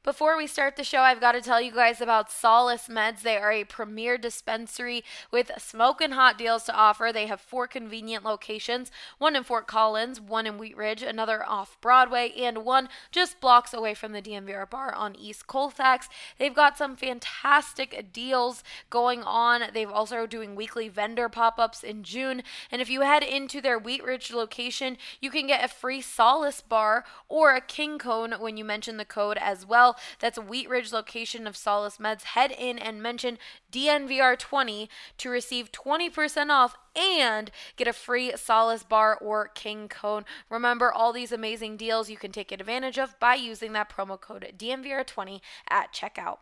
Before we start the show, I've got to tell you guys about Solace Meds. They are a premier dispensary with smoking hot deals to offer. They have 4 convenient locations, one in Fort Collins, one in Wheat Ridge, another off Broadway, and one just blocks away from the DMVR bar on East Colfax. They've got some fantastic deals going on. They've also doing weekly vendor pop-ups in June. And if you head into their Wheat Ridge location, you can get a free Solace bar or a King Cone when you mention the code as well. That's a Wheat Ridge location of Solace Meds. Head in and mention DNVR20 to receive 20% off and get a free Solace bar or King Cone. Remember, all these amazing deals you can take advantage of by using that promo code DNVR20 at checkout.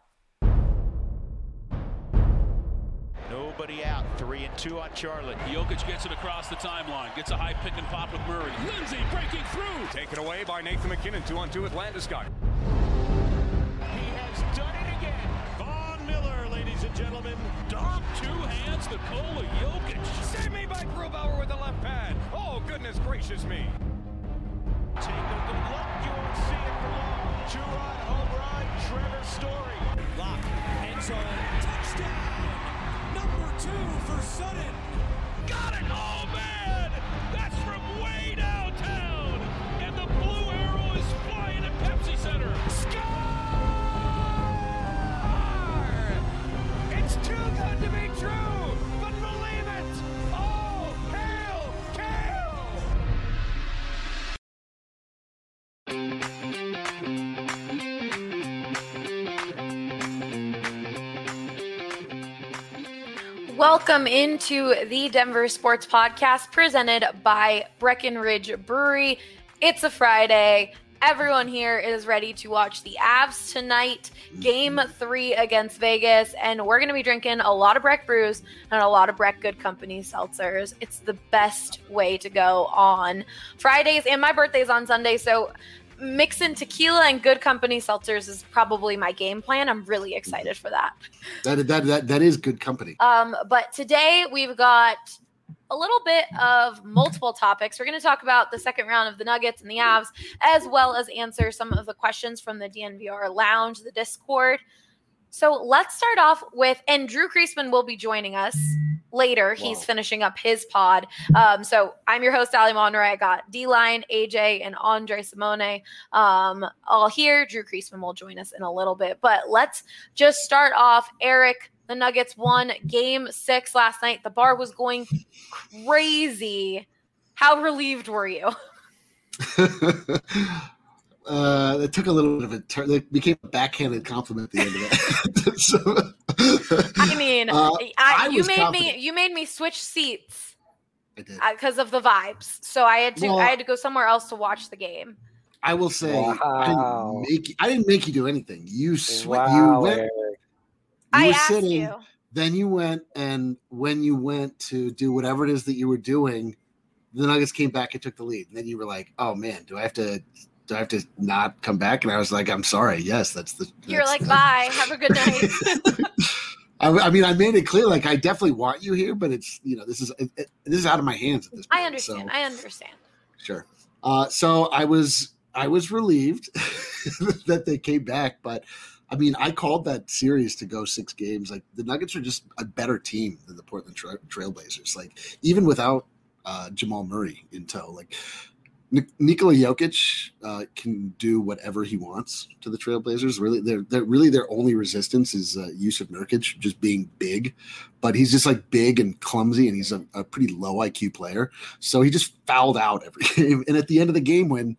Nobody out. 3-2 on Charlotte. Jokic gets it across the timeline. Gets a high pick and pop with Murray. Lindsay breaking through. Taken away by Nathan McKinnon. 2-on-2 with Landeskog. He has done it again. Von Miller, ladies and gentlemen. Dom, 2 hands, Nikola Jokic. Save me by Grubauer with the left pad. Oh, goodness gracious me. Take a good look. You won't see it for long. 2-run home run. Trevor Story. Lock. End zone. Touchdown. Number 2 for Sutton. Got it! Oh, man! That's from way downtown! And the blue arrow is flying at Pepsi Center. Score! It's too good to be true, but believe it! Oh, hail, Kale! Welcome into the Denver Sports Podcast presented by Breckenridge Brewery. It's a Friday. Everyone here is ready to watch the Avs tonight, Game 3 against Vegas, and we're going to be drinking a lot of Breck brews and a lot of Breck Good Company seltzers. It's the best way to go on Fridays, and my birthday's on Sunday, so mixing tequila and Good Company seltzers is probably my game plan. I'm really excited for that. That is Good Company. But today we've got a little bit of multiple topics. We're going to talk about the second round of the Nuggets and the Avs, as well as answer some of the questions from the DNVR Lounge, the Discord. So let's start off with, and Drew Creasman will be joining us later. Wow. He's finishing up his pod. So I'm your host, Ali Monroy. I got D-Line, AJ, and Andre Simone all here. Drew Creasman will join us in a little bit. But let's just start off. Eric, the Nuggets won Game 6 last night. The bar was going crazy. How relieved were you? It took a little bit of a turn. It became a backhanded compliment at the end of it. I mean, you made me switch seats. I did because of the vibes. So I had to go somewhere else to watch the game. I will say, wow. I didn't make you do anything. You went. I were asked sitting, you. Then you went, and when you went to do whatever it is that you were doing, the Nuggets came back and took the lead. And then you were like, "Oh man, do I have to not come back?" And I was like, "I'm sorry. Yes, You're like, bye. Have a good night." I mean, I made it clear, like I definitely want you here, but it's this is out of my hands at this point. I understand. So. I understand. Sure. So I was relieved that they came back, but I mean, I called that series to go 6 games. Like the Nuggets are just a better team than the Portland Trailblazers. Like even without Jamal Murray in tow, like Nikola Jokic can do whatever he wants to the Trailblazers. Really, their only resistance is Jusuf Nurkic just being big, but he's just like big and clumsy, and he's a pretty low IQ player. So he just fouled out every game. And at the end of the game, when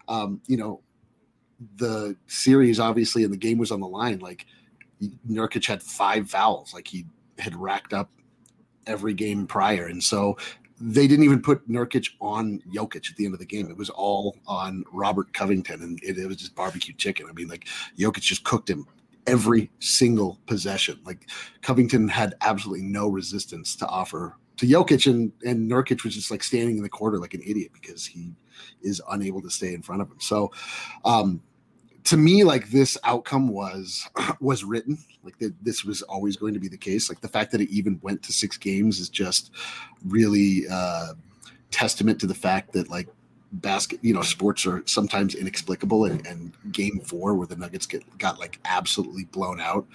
the series obviously and the game was on the line, like Nurkic had 5 fouls, like he had racked up every game prior, and so they didn't even put Nurkic on Jokic at the end of the game. It was all on Robert Covington, and it was just barbecue chicken. I mean, like Jokic just cooked him every single possession. Like Covington had absolutely no resistance to offer to Jokic, and Nurkic was just like standing in the corner like an idiot because he is unable to stay in front of him. So to me, like this outcome was written. Like this was always going to be the case. Like the fact that it even went to 6 games is just really testament to the fact that like sports are sometimes inexplicable, and game 4 where the Nuggets got like absolutely blown out.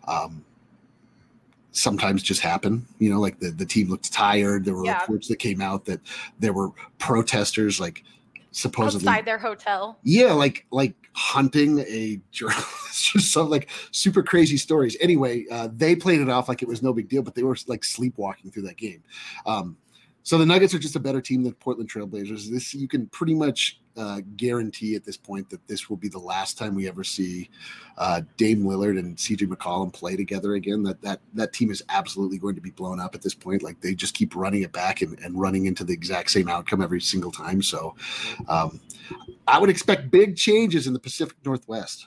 Sometimes just happen, like the team looked tired. There were reports that came out that there were protesters like supposedly outside their hotel. Yeah, like hunting a journalist, just some like super crazy stories. Anyway, they played it off like it was no big deal, but they were like sleepwalking through that game. So the Nuggets are just a better team than Portland Trailblazers. This you can pretty much guarantee at this point that this will be the last time we ever see Dame Lillard and CJ McCollum play together again. That team is absolutely going to be blown up at this point. Like they just keep running it back and running into the exact same outcome every single time. So I would expect big changes in the Pacific Northwest.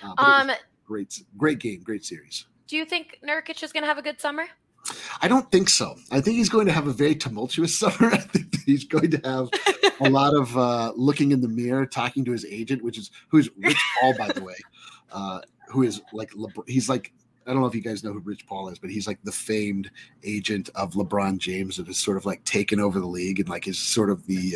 Great game, great series. Do you think Nurkic is going to have a good summer? I don't think so. I think he's going to have a very tumultuous summer. I think that he's going to have a lot of looking in the mirror, talking to his agent, who's Rich Paul, by the way, who is like he's like, I don't know if you guys know who Rich Paul is, but he's like the famed agent of LeBron James that has sort of like taken over the league and like is sort of the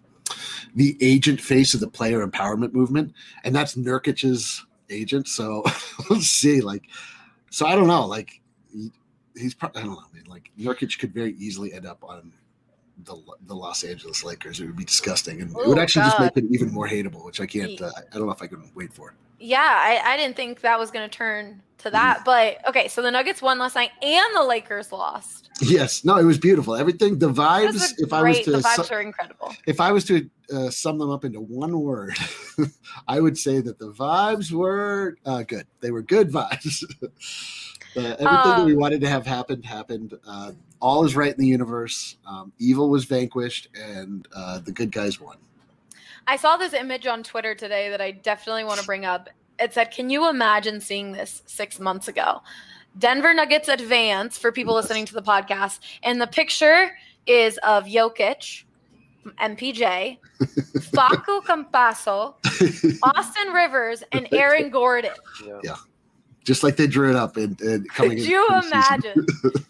agent face of the player empowerment movement, and that's Nurkic's agent. So we'll see. So I don't know. Like. I don't know, man. Like Nurkic could very easily end up on the Los Angeles Lakers. It would be disgusting, and it would actually just make it even more hateable, which I can't. I don't know if I can wait for. Yeah, I didn't think that was going to turn to that, but okay. So the Nuggets won last night, and the Lakers lost. Yes, no, it was beautiful. Everything, the vibes. The vibes are incredible. If I was to sum them up into one word, I would say that the vibes were good. They were good vibes. Everything that we wanted to have happened. All is right in the universe. Evil was vanquished, and the good guys won. I saw this image on Twitter today that I definitely want to bring up. It said, can you imagine seeing this 6 months ago? Denver Nuggets advance for people listening to the podcast. And the picture is of Jokic, MPJ, Facu Campasso, Austin Rivers, and Aaron Gordon. Yeah. Just like they drew it up and coming. Could you imagine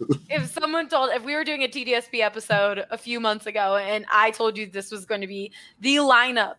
if we were doing a TDSP episode a few months ago and I told you this was going to be the lineup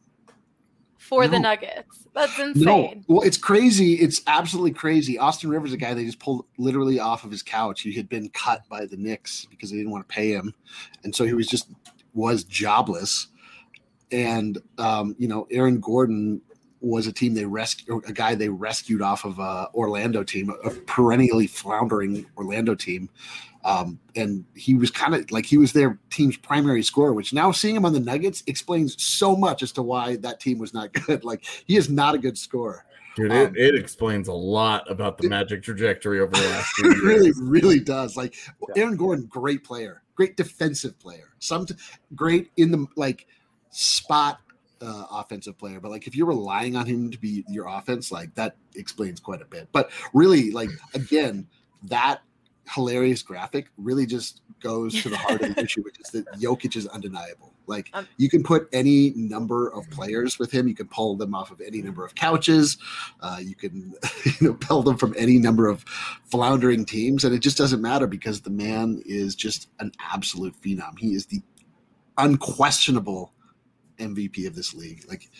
for the Nuggets? That's insane. No. Well, it's crazy. It's absolutely crazy. Austin Rivers, a guy they just pulled literally off of his couch. He had been cut by the Knicks because they didn't want to pay him. And so he was jobless. And, Aaron Gordon was a guy they rescued off of Orlando team, a perennially floundering Orlando team. And he was kind of like, he was their team's primary scorer, which now seeing him on the Nuggets explains so much as to why that team was not good. Like he is not a good scorer. Dude, it explains a lot about the Magic trajectory over the last few years. It really, really does. Like Aaron Gordon, great player, great defensive player, great in the spot offensive player, but like if you're relying on him to be your offense, like that explains quite a bit. But really, like again, that hilarious graphic really just goes to the heart of the issue, which is that Jokic is undeniable. Like you can put any number of players with him, you can pull them off of any number of couches, you can pull them from any number of floundering teams, and it just doesn't matter because the man is just an absolute phenom. He is the unquestionable MVP of this league. Like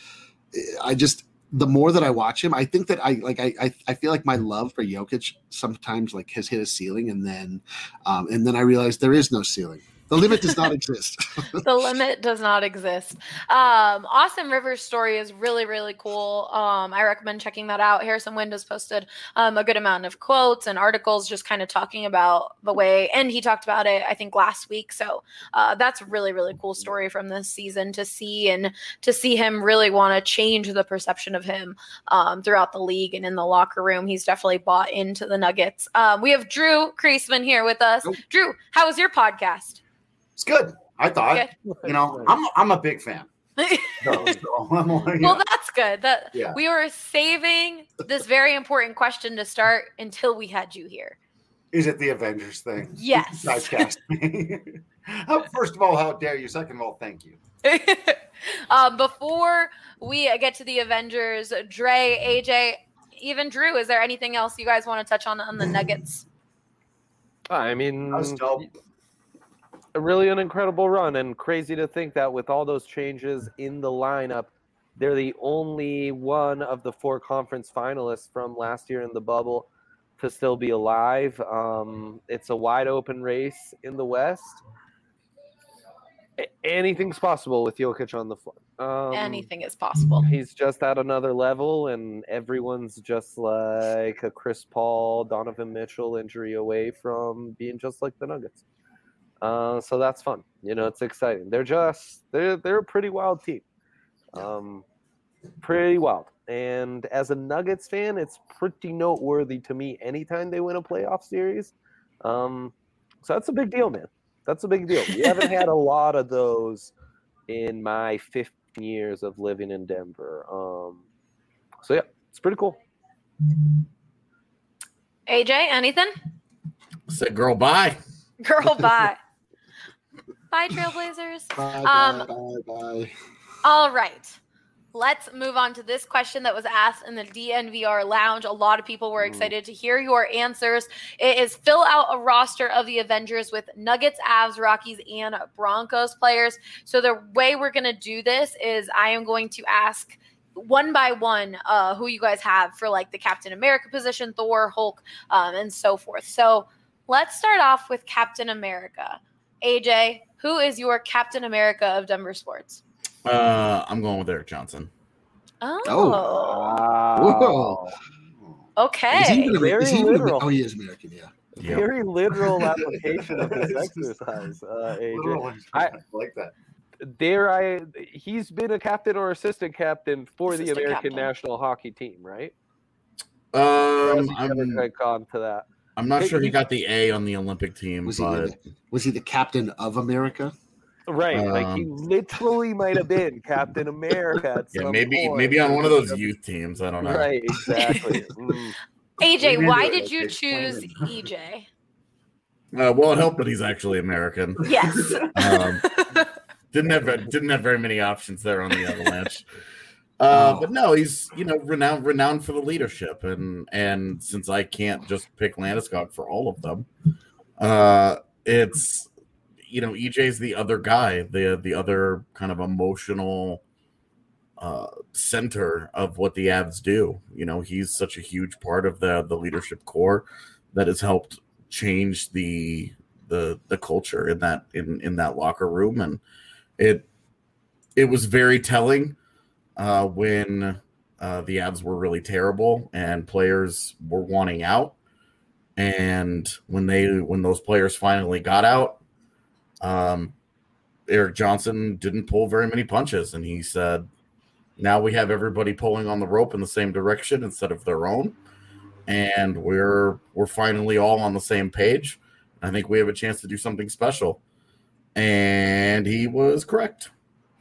the more that I watch him, I think that I feel like my love for Jokic sometimes like has hit a ceiling, and then I realize there is no ceiling. The limit does not exist. The limit does not exist. Austin Rivers' story is really, really cool. I recommend checking that out. Harrison Wind has posted a good amount of quotes and articles just kind of talking about the way, and he talked about it, I think, last week. So that's a really, really cool story from this season to see, and to see him really want to change the perception of him throughout the league and in the locker room. He's definitely bought into the Nuggets. We have Drew Kreisman here with us. Nope. Drew, how was your podcast? It's good. I thought, I'm a big fan. Well, that's good. We were saving this very important question to start until we had you here. Is it the Avengers thing? Yes. Cast me. First of all, how dare you? Second of all, thank you. Before we get to the Avengers, Dre, AJ, even Drew, is there anything else you guys want to touch on the Nuggets? I mean, that was dope. really an incredible run, and crazy to think that with all those changes in the lineup, they're the only one of the 4 conference finalists from last year in the bubble to still be alive. It's a wide open race in the West. Anything's possible with Jokic on the floor. Anything is possible. He's just at another level, and everyone's just like a Chris Paul, Donovan Mitchell injury away from being just like the Nuggets. So that's fun. It's exciting. They're a pretty wild team. Pretty wild. And as a Nuggets fan, it's pretty noteworthy to me anytime they win a playoff series. So that's a big deal, man. That's a big deal. We haven't had a lot of those in my 15 years of living in Denver. So, yeah, it's pretty cool. AJ, anything? Said girl, bye. Girl, bye. Bye, Trailblazers. Bye. All right. Let's move on to this question that was asked in the DNVR lounge. A lot of people were excited to hear your answers. It is fill out a roster of the Avengers with Nuggets, Avs, Rockies, and Broncos players. So the way we're going to do this is I am going to ask one by one who you guys have for like the Captain America position, Thor, Hulk, and so forth. So let's start off with Captain America. AJ, who is your Captain America of Denver sports? I'm going with Eric Johnson. Oh. Okay. Is he literal. He is American, yeah. Very literal application of this exercise, AJ. I like that. He's been a captain or assistant captain for the American captain. national hockey team, right? I'm not sure he got the A on the Olympic team, Was he the captain of America? Right, like he literally might have been Captain America at some point. Maybe on one of those youth teams. I don't know. Right, exactly. AJ, why did you choose EJ? Well, it helped that he's actually American. Yes. Didn't have very many options there on the Avalanche. But no, he's renowned for the leadership, and since I can't just pick Landeskog for all of them, it's EJ's the other guy, the other kind of emotional center of what the Avs do. He's such a huge part of the leadership core that has helped change the culture in that locker room, and it was very telling when the Avs were really terrible and players were wanting out, and when those players finally got out, Eric Johnson didn't pull very many punches, and he said, now we have everybody pulling on the rope in the same direction instead of their own, and we're finally all on the same page. I think we have a chance to do something special, and he was correct.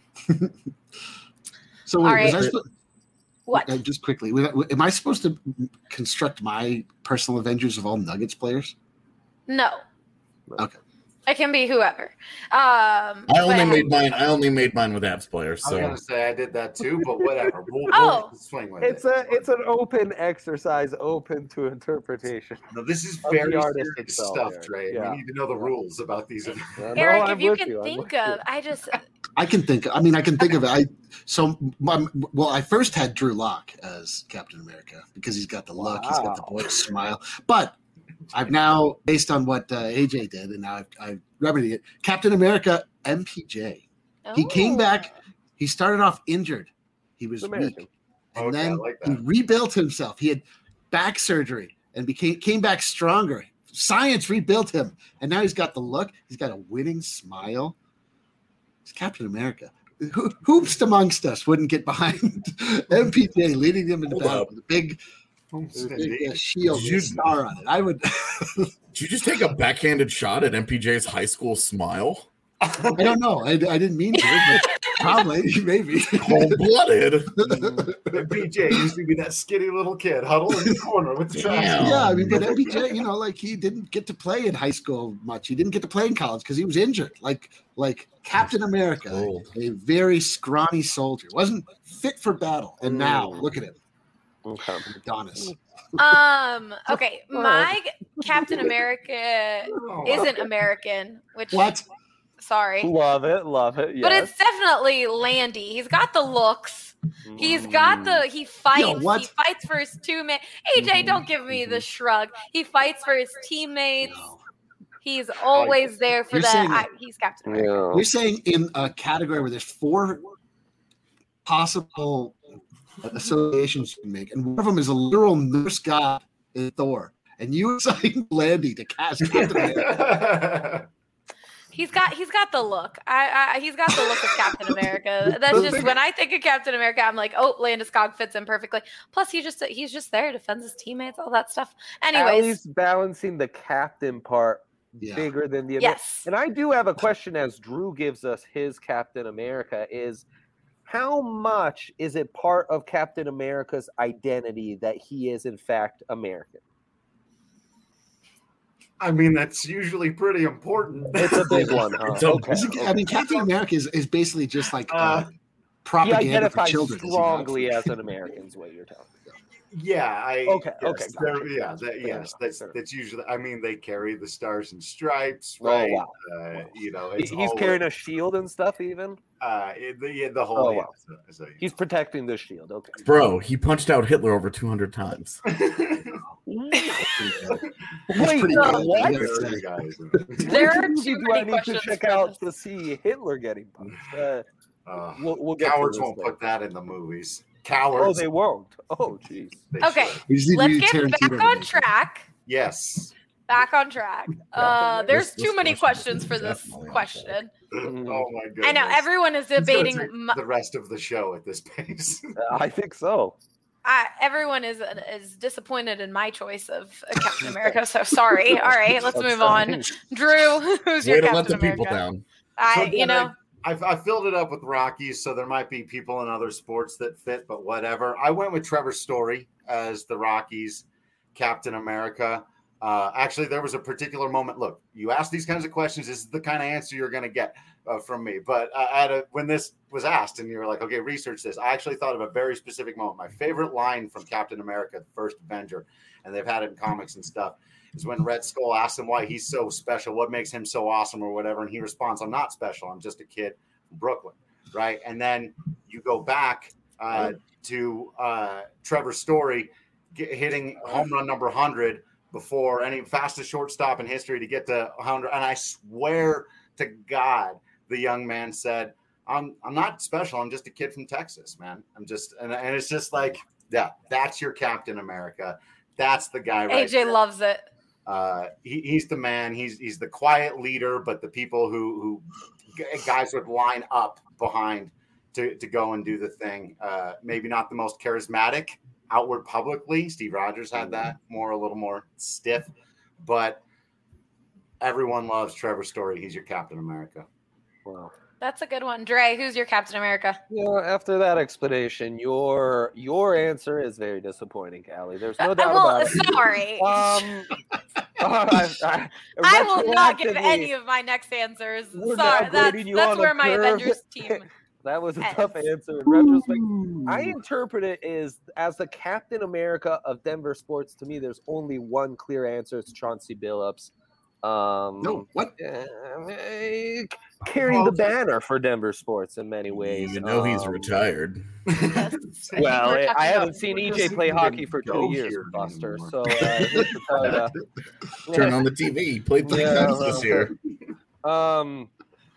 So wait, right. What? Just quickly, am I supposed to construct my personal Avengers of all Nuggets players? No. Okay. It can be whoever. I only made mine with Avs players. I So was gonna say I did that too, but whatever. We'll swing with it's an open exercise, open to interpretation. No, this is Of very the artist serious itself stuff, here. Trey. Yeah. We need to know the rules about these. Eric, if you can think of, I can think of it. I first had Drew Lock as Captain America because he's got the look, he's got the boyish smile. But I've now, based on what AJ did, and now I've remedied it, Captain America MPJ. He came back. He started off injured. He was weak. And then he rebuilt himself. He had back surgery and came back stronger. Science rebuilt him. And now he's got the look. He's got a winning smile. He's Captain America. Hoops amongst us wouldn't get behind MPJ, leading them into battle with a big shield with a star on it. I would. Did you just take a backhanded shot at MPJ's high school smile? I don't know. I didn't mean to, but probably, maybe. Cold-blooded. MPJ used to be that skinny little kid huddled in the corner with the trash. Yeah, I mean, but MPJ, he didn't get to play in high school much. He didn't get to play in college because he was injured. Like Captain America, a very scrawny soldier, wasn't fit for battle. And now, look at him. Adonis. Okay, my Captain America isn't American, which what? Sorry. Love it. Yes. But it's definitely Landy. He's got the looks. He fights. He fights for his teammates. AJ, don't give me the shrug. He fights for his teammates. No. He's always there for that. He's Captain America. Yeah. You're saying in a category where there's 4 possible associations you can make, and one of them is a literal Norse god in Thor, and you assigned Landy to cast Captain America. He's got the look. He's got the look of Captain America. That's just when I think of Captain America, I'm like, oh, Landeskog fits in perfectly. Plus, he's just there, defends his teammates, all that stuff. Anyways, Allie's balancing the captain part bigger than the yes. And I do have a question as Drew gives us his Captain America is how much is it part of Captain America's identity that he is in fact American? I mean, that's usually pretty important. It's a big one, huh? Okay. I mean, Captain America is basically just like propaganda he identifies for children. strongly as an American, is what you're telling me. Yeah. Okay. Yes. That's usually. I mean, they carry the stars and stripes, right? Oh, wow. It's he's carrying a shield and stuff, even. The whole. Oh, wow. He's protecting the shield. Okay, bro. He punched out Hitler over 200 times. Wait, what? There are too many I need questions to check out to see Hitler getting punched. We'll get cowards won't put that in the movies. Cowards. Oh, they won't. Oh, jeez. Okay, let's get back on track. Yes. Back on track. There's too many questions for this question. Oh my goodness. I know everyone is debating the rest of the show at this pace. I think so. Everyone is disappointed in my choice of Captain America. So sorry. All right, let's move on. Drew, who's your Captain let the America? people down. I filled it up with Rockies, so there might be people in other sports that fit, but whatever. I went with Trevor Story as the Rockies Captain America. Actually, there was a particular moment. Look, you ask these kinds of questions. This is the kind of answer you're going to get from me. But when this was asked and you were like, okay, research this, I actually thought of a very specific moment. My favorite line from Captain America, the first Avenger, and they've had it in comics and stuff, is when Red Skull asks him why he's so special, what makes him so awesome or whatever. And he responds, I'm not special. I'm just a kid from Brooklyn. Right. And then you go back to Trevor Story hitting home run number 100 before any fastest shortstop in history to get to 100. And I swear to God, the young man said, I'm not special. I'm just a kid from Texas, man. I'm just, and it's just like, yeah, that's your Captain America. That's the guy. Right AJ there. loves it. He's the man. He's the quiet leader, but the people who guys would line up behind to go and do the thing. Maybe not the most charismatic outward publicly. Steve Rogers had that a little more stiff, but everyone loves Trevor Story. He's your Captain America. Wow. That's a good one. Dre, who's your Captain America? After that explanation, your answer is very disappointing, Allie. There's no doubt about it. Sorry. I will not give any of my next answers. Sorry, that's where my Avengers team. That was a tough answer in retrospect. I interpret it as the Captain America of Denver sports. To me, there's only one clear answer. It's Chauncey Billups. No, what? Carrying the banner for Denver sports in many ways. You know he's retired. Well, I haven't seen EJ play hockey for 2 years, Buster. So turn on the TV. He played 3 times this year. And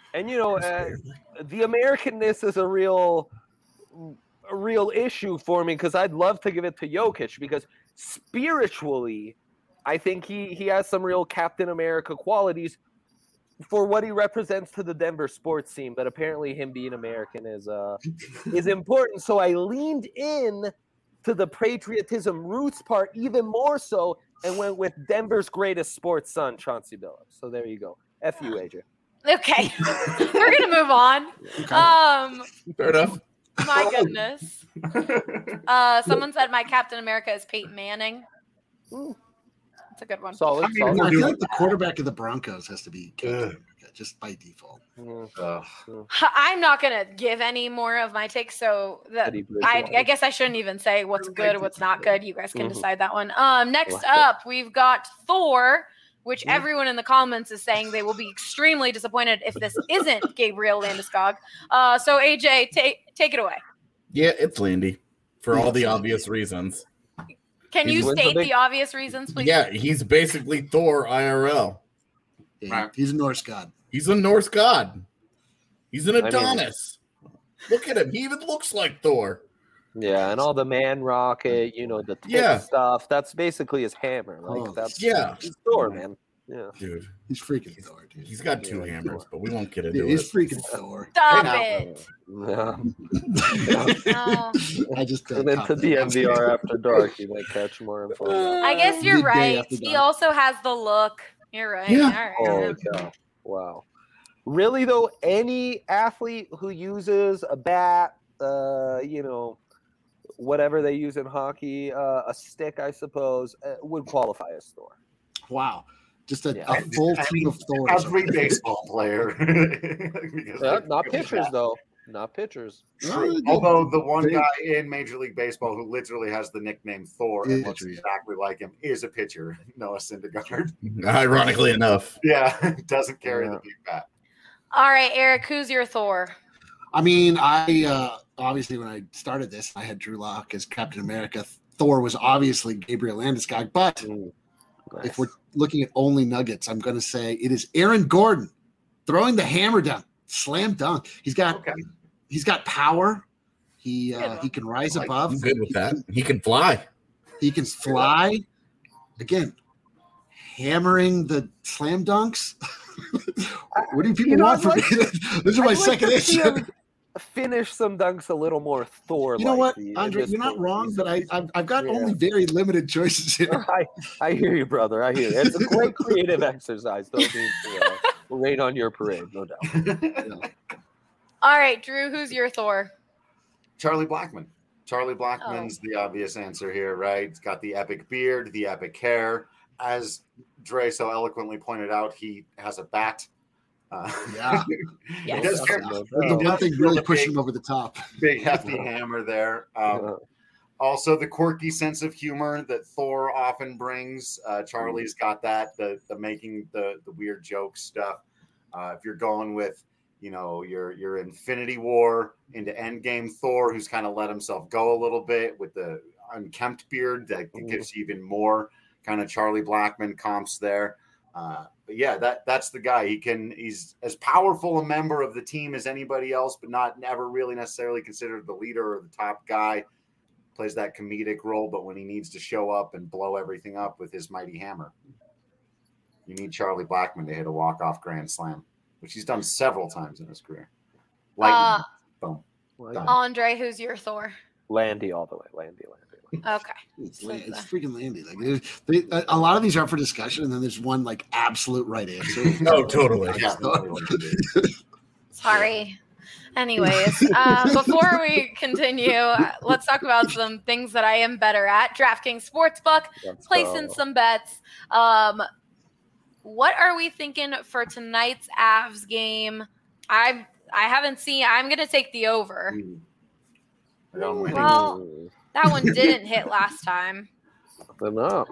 the Americanness is a real issue for me because I'd love to give it to Jokic because spiritually, I think he has some real Captain America qualities for what he represents to the Denver sports scene. But apparently, him being American is important. So I leaned in to the patriotism roots part even more so, and went with Denver's greatest sports son, Chauncey Billups. So there you go. F you, AJ. Okay, we're gonna move on. Fair enough. My goodness. Someone said my Captain America is Peyton Manning. That's a good one. Solid. I feel like the quarterback of the Broncos has to be Captain America, just by default. I'm not gonna give any more of my takes, so I guess I shouldn't even say what's good or what's not good. You guys can decide that one. Next up, we've got Thor. which everyone in the comments is saying they will be extremely disappointed if this isn't Gabriel Landeskog. So AJ, take it away. Yeah, it's Landy for all the obvious reasons. Can you state the obvious reasons, please? Yeah, he's basically Thor IRL. Yeah, he's a Norse god. He's a Norse god. He's an Adonis. Look at him. He even looks like Thor. Yeah, and all the man rocket, the tit stuff. That's basically his hammer. He's Thor, man. Yeah, dude, he's freaking Thor, dude. He's got two hammers, but we won't get into it. He's freaking Thor. Stop it. No. I just and then to DMVR after dark, you might catch more info. I guess you're right. He also has the look. You're right. Yeah. All right. Oh, God. Wow. Really though, any athlete who uses a bat, whatever they use in hockey, a stick, I suppose, would qualify as Thor. Wow. Just a full team of Thors. Every baseball player. Not pitchers, though. Not pitchers. Although the one guy in Major League Baseball who literally has the nickname Thor and looks exactly like him is a pitcher, Noah Syndergaard. Ironically enough. Yeah, doesn't carry the big bat. All right, Eric, who's your Thor? I mean, I obviously when I started this, I had Drew Lock as Captain America. Thor was obviously Gabriel Landeskog, but if we're looking at only Nuggets, I'm going to say it is Aaron Gordon throwing the hammer down, slam dunk. He's got power. He can rise above. I'm good with that. He can fly. He can fly. Again, hammering the slam dunks. What do people want from me? This is my second issue. Finish some dunks a little more Thor. You know what, Andre? You're not wrong, but I've got only very limited choices here. I hear you, brother. I hear you. It's a great creative exercise. Don't mean to rain on your parade, no doubt. All right, Drew, who's your Thor? Charlie Blackmon. Charlie Blackmon's the obvious answer here, right? He's got the epic beard, the epic hair. As Dre so eloquently pointed out, he has a bat. Yeah. He does carry the one thing really pushing him over the top. Big hefty hammer there. Also, the quirky sense of humor that Thor often brings. Charlie's got that. The making the weird joke stuff. If you're going with your Infinity War into Endgame Thor, who's kind of let himself go a little bit with the unkempt beard, that gives you even more kind of Charlie Blackmon comps there. But yeah, that's the guy. He's as powerful a member of the team as anybody else, but never really necessarily considered the leader or the top guy. Plays that comedic role, but when he needs to show up and blow everything up with his mighty hammer, you need Charlie Blackmon to hit a walk-off grand slam, which he's done several times in his career. Lightning, boom. Andre, who's your Thor? Landy all the way. Landy. Okay. It's freaking Landy. Like, a lot of these are up for discussion, and then there's one like absolute right answer. No, totally. Sorry. Anyways, before we continue, let's talk about some things that I am better at. DraftKings Sportsbook, placing some bets. What are we thinking for tonight's Avs game? I haven't seen. I'm going to take the over. Well, that one didn't hit last time. No.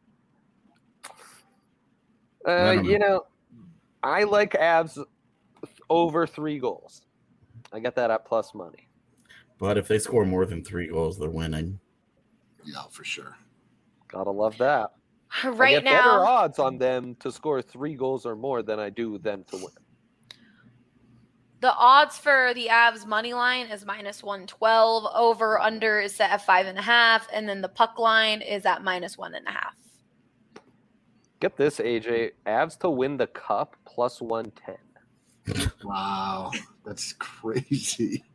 I like Avs over 3 goals. I got that at plus money. But if they score more than 3 goals, they're winning. Yeah, for sure. Gotta love that. Right I get now, better odds on them to score 3 goals or more than I do them to win. the odds for the Avs money line is -112. Over under is set at 5.5, and then the puck line is at -1.5. Get this, AJ. Avs to win the cup plus 110. Wow, that's crazy.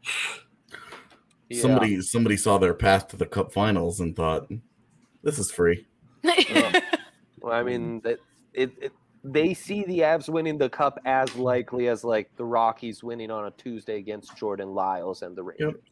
Yeah. Somebody saw their path to the cup finals and thought, this is free. Well, I mean, they see the Avs winning the cup as likely as like the Rockies winning on a Tuesday against Jordan Lyles and the Rangers. Yep.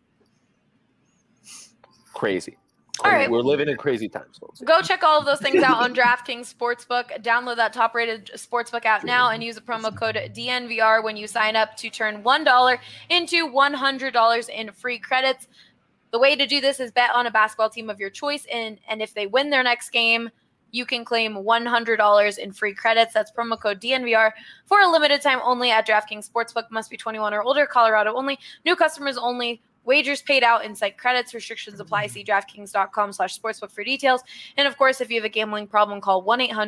Crazy. All right. We're living in crazy times, folks. Go check all of those things out on DraftKings Sportsbook. Download that top-rated sportsbook app now and use the promo code DNVR when you sign up to turn $1 into $100 in free credits. The way to do this is bet on a basketball team of your choice, and if they win their next game, you can claim $100 in free credits. That's promo code DNVR for a limited time only at DraftKings Sportsbook. Must be 21 or older, Colorado only. New customers only. Wagers paid out in site credits. Restrictions apply. See DraftKings.com/sportsbook for details. And of course, if you have a gambling problem, call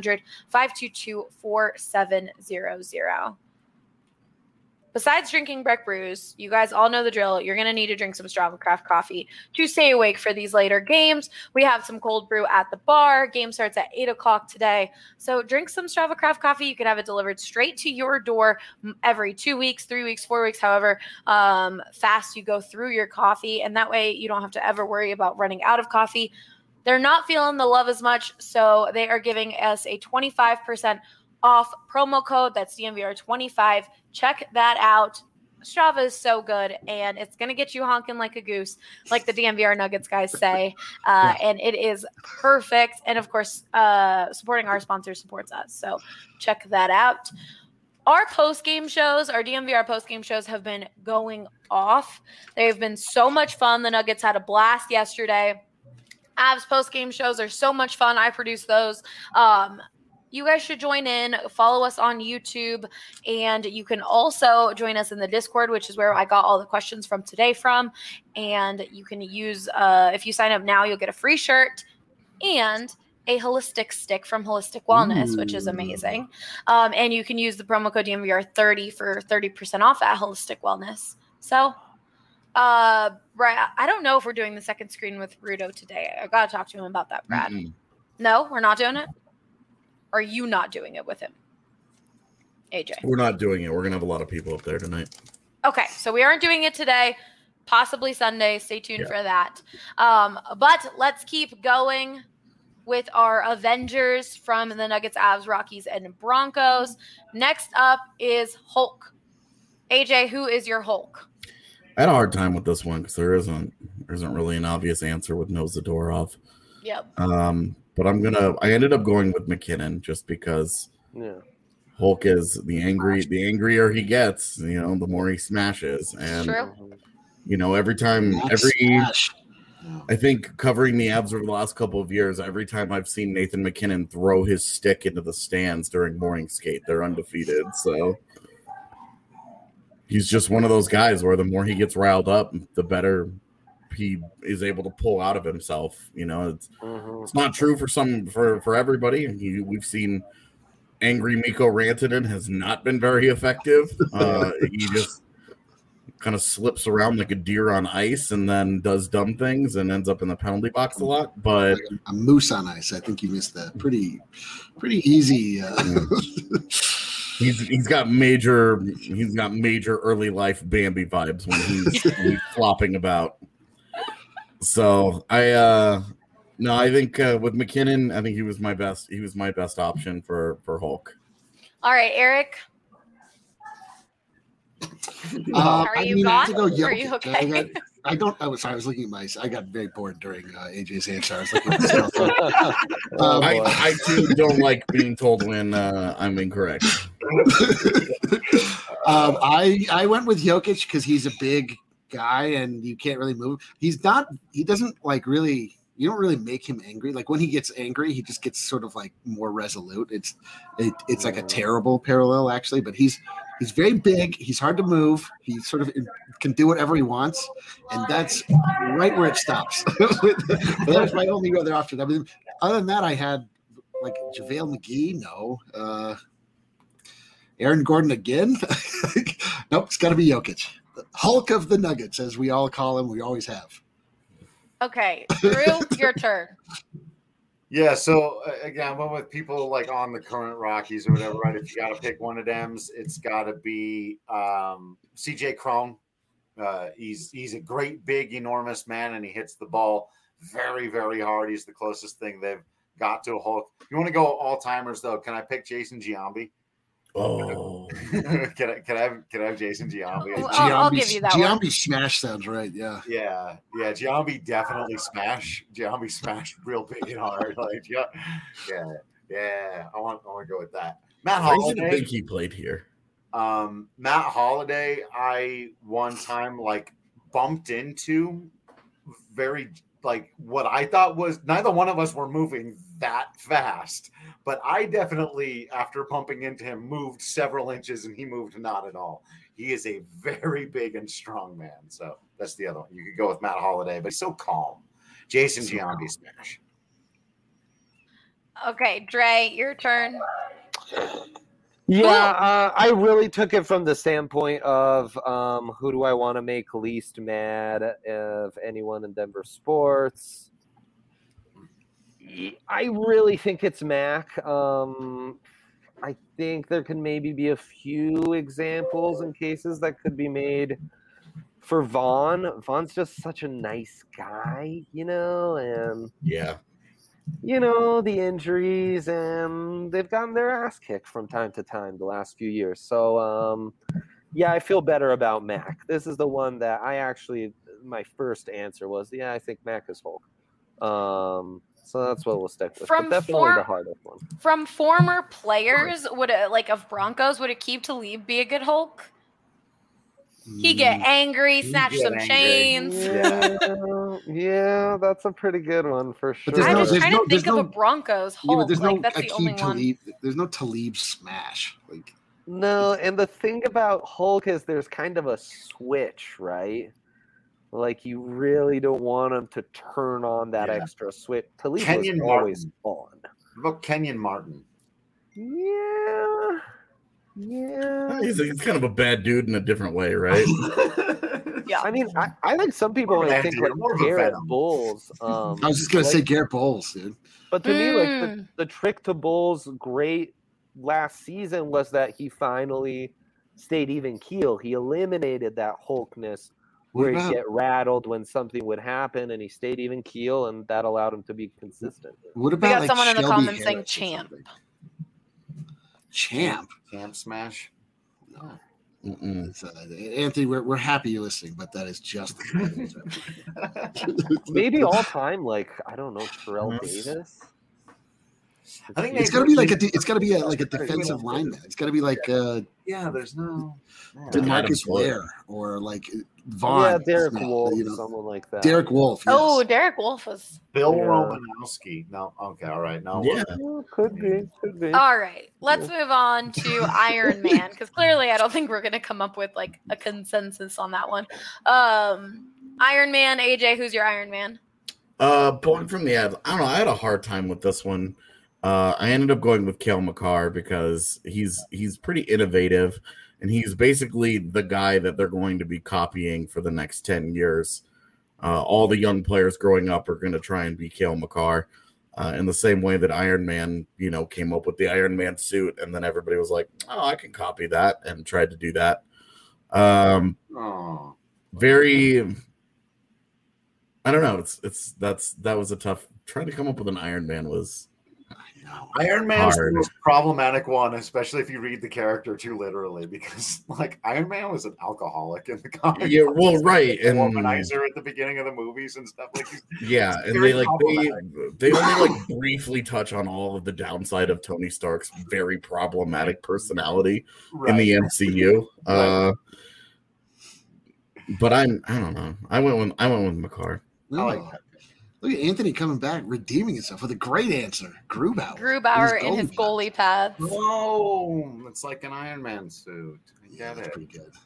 1-800-522-4700. Besides drinking Breck Brews, you guys all know the drill. You're going to need to drink some Strava Craft coffee to stay awake for these later games. We have some cold brew at the bar. Game starts at 8 o'clock today. So drink some Strava Craft coffee. You can have it delivered straight to your door every 2 weeks, 3 weeks, 4 weeks, however fast you go through your coffee. And that way you don't have to ever worry about running out of coffee. They're not feeling the love as much, so they are giving us a 25% off promo code. That's DNVR25. Check that out. Strava is so good, and it's going to get you honking like a goose, like the DNVR Nuggets guys say. And it is perfect. And of course, supporting our sponsor supports us. So check that out. Our post-game shows, our DNVR post-game shows have been going off. They've been so much fun. The Nuggets had a blast yesterday. Avs post-game shows are so much fun. I produce those. You guys should join in, follow us on YouTube, and you can also join us in the Discord, which is where I got all the questions from today from. And you can use, if you sign up now, you'll get a free shirt and a holistic stick from Holistic Wellness, which is amazing. And you can use the promo code DNVR30 for 30% off at Holistic Wellness. So, Brad, I don't know if we're doing the second screen with Rudo today. I got to talk to him about that, Brad. No, we're not doing it? Are you not doing it with him, AJ? We're not doing it. We're going to have a lot of people up there tonight. Okay, so we aren't doing it today, possibly Sunday. Stay tuned for that. But let's keep going with our Avengers from the Nuggets, Avs, Rockies, and Broncos. Next up is Hulk. AJ, who is your Hulk? I had a hard time with this one because there isn't really an obvious answer with Nose the Door off. Yep. But I ended up going with McKinnon just because Hulk is the angrier he gets, the more he smashes. And I think covering the Avs over the last couple of years, every time I've seen Nathan McKinnon throw his stick into the stands during morning skate, they're undefeated. So he's just one of those guys where the more he gets riled up, the better he is able to pull out of himself. It's not true for everybody. We've seen angry Mikko Rantanen has not been very effective. He just kind of slips around like a deer on ice and then does dumb things and ends up in the penalty box a lot. But like a moose on ice. I think you missed that. Pretty easy. He's got major early life Bambi vibes when he's flopping about. So I think with McKinnon, I think he was my best option for Hulk. All right, Eric. Are you gone? Are you okay? I was looking at I got very bored during AJ's answer. I was looking at myself. I too don't like being told when I'm incorrect. I went with Jokic because he's a big guy and you can't really move. He doesn't like really, you don't really make him angry. Like when he gets angry, he just gets sort of like more resolute. It's like a terrible parallel actually, but he's very big. He's hard to move. He sort of can do whatever he wants. And that's right where it stops. That was my only other option. I mean, other than that, I had like JaVale McGee. No. Aaron Gordon again. Nope. It's gotta be Jokic. Hulk of the Nuggets, as we all call him, we always have. Okay, Drew, your turn. Yeah, so again, I went with people like on the current Rockies or whatever, right? If you got to pick one of them, it's got to be CJ Cron. He's a great, big, enormous man, and he hits the ball very, very hard. He's the closest thing they've got to a Hulk. If you want to go all-timers, though, can I pick Jason Giambi? Oh, can I have Jason Giambi? I'll give you that one. Giambi smash sounds right. Yeah. Giambi definitely smash. Giambi smash real big and hard. Like yeah. I want to go with that. Matt Holliday. I think he played here. Matt Holliday, I one time like bumped into very like what I thought was neither one of us were moving that fast, but I definitely, after bumping into him, moved several inches and he moved not at all. He is a very big and strong man. So that's the other one. You could go with Matt Holliday, but he's so calm. Jason Giambi smash. Okay, Dre, your turn. Yeah, I really took it from the standpoint of who do I want to make least mad of anyone in Denver sports. I really think it's Mac. I think there can maybe be a few examples and cases that could be made for Vaughn. Vaughn's just such a nice guy, and Yeah. the injuries, and they've gotten their ass kicked from time to time the last few years. So, I feel better about Mac. This is the one that my first answer was, I think Mac is Hulk. So that's what we'll stick with. But definitely the hardest one. From former players, of Broncos, would Aqib Talib be a good Hulk? He get angry, snatch some chains. Yeah, that's a pretty good one for sure. I'm just trying to think of a Broncos Hulk. There's no that's the only Talib, one. There's no Talib smash. No, and the thing about Hulk is there's kind of a switch, right? Like you really don't want him to turn on that extra switch. Talib was always on. What about Kenyon Martin? Yeah. He's kind of a bad dude in a different way, right? Yeah, I mean, I think some people might think like Garrett Bowles. I was just gonna say Garrett Bowles, dude. But to me, like the trick to Bowles' great last season was that he finally stayed even keel. He eliminated that Hulkness where he'd get rattled when something would happen, and he stayed even keel, and that allowed him to be consistent. What about we got someone in the comments saying Champ smash? No. Anthony, we're happy you're listening, but that is just maybe all time. Like I don't know, Terrell Davis. I think it's got to be like a defensive lineman. It's got to be like there's no DeMarcus Ware or like Vaughn. Yeah, Derek Wolfe, someone like that. Derek Wolfe. Yes. Oh, Derek Wolfe was Bill Romanowski. No, okay, all right, no. Yeah, could be. All right, let's move on to Iron Man because clearly I don't think we're gonna come up with like a consensus on that one. Iron Man, AJ, who's your Iron Man? Pulling from the ads, I don't know. I had a hard time with this one. I ended up going with Cale Makar because he's pretty innovative, and he's basically the guy that they're going to be copying for the next 10 years. All the young players growing up are going to try and be Cale Makar in the same way that Iron Man, came up with the Iron Man suit, and then everybody was like, "Oh, I can copy that," and tried to do that. Very. I don't know. That was a tough. Trying to come up with an Iron Man was. Iron Man's the most problematic one, especially if you read the character too literally, because like Iron Man was an alcoholic in the comics. Yeah, well, right, and and womanizer at the beginning of the movies and stuff like. Yeah, and they only briefly touch on all of the downside of Tony Stark's very problematic personality in the MCU. But I don't know. I went with Makar. I like that. Look at Anthony coming back, redeeming himself with a great answer. Grubauer in his goalie pads. Oh, it's like an Iron Man suit. I get it. That's pretty good.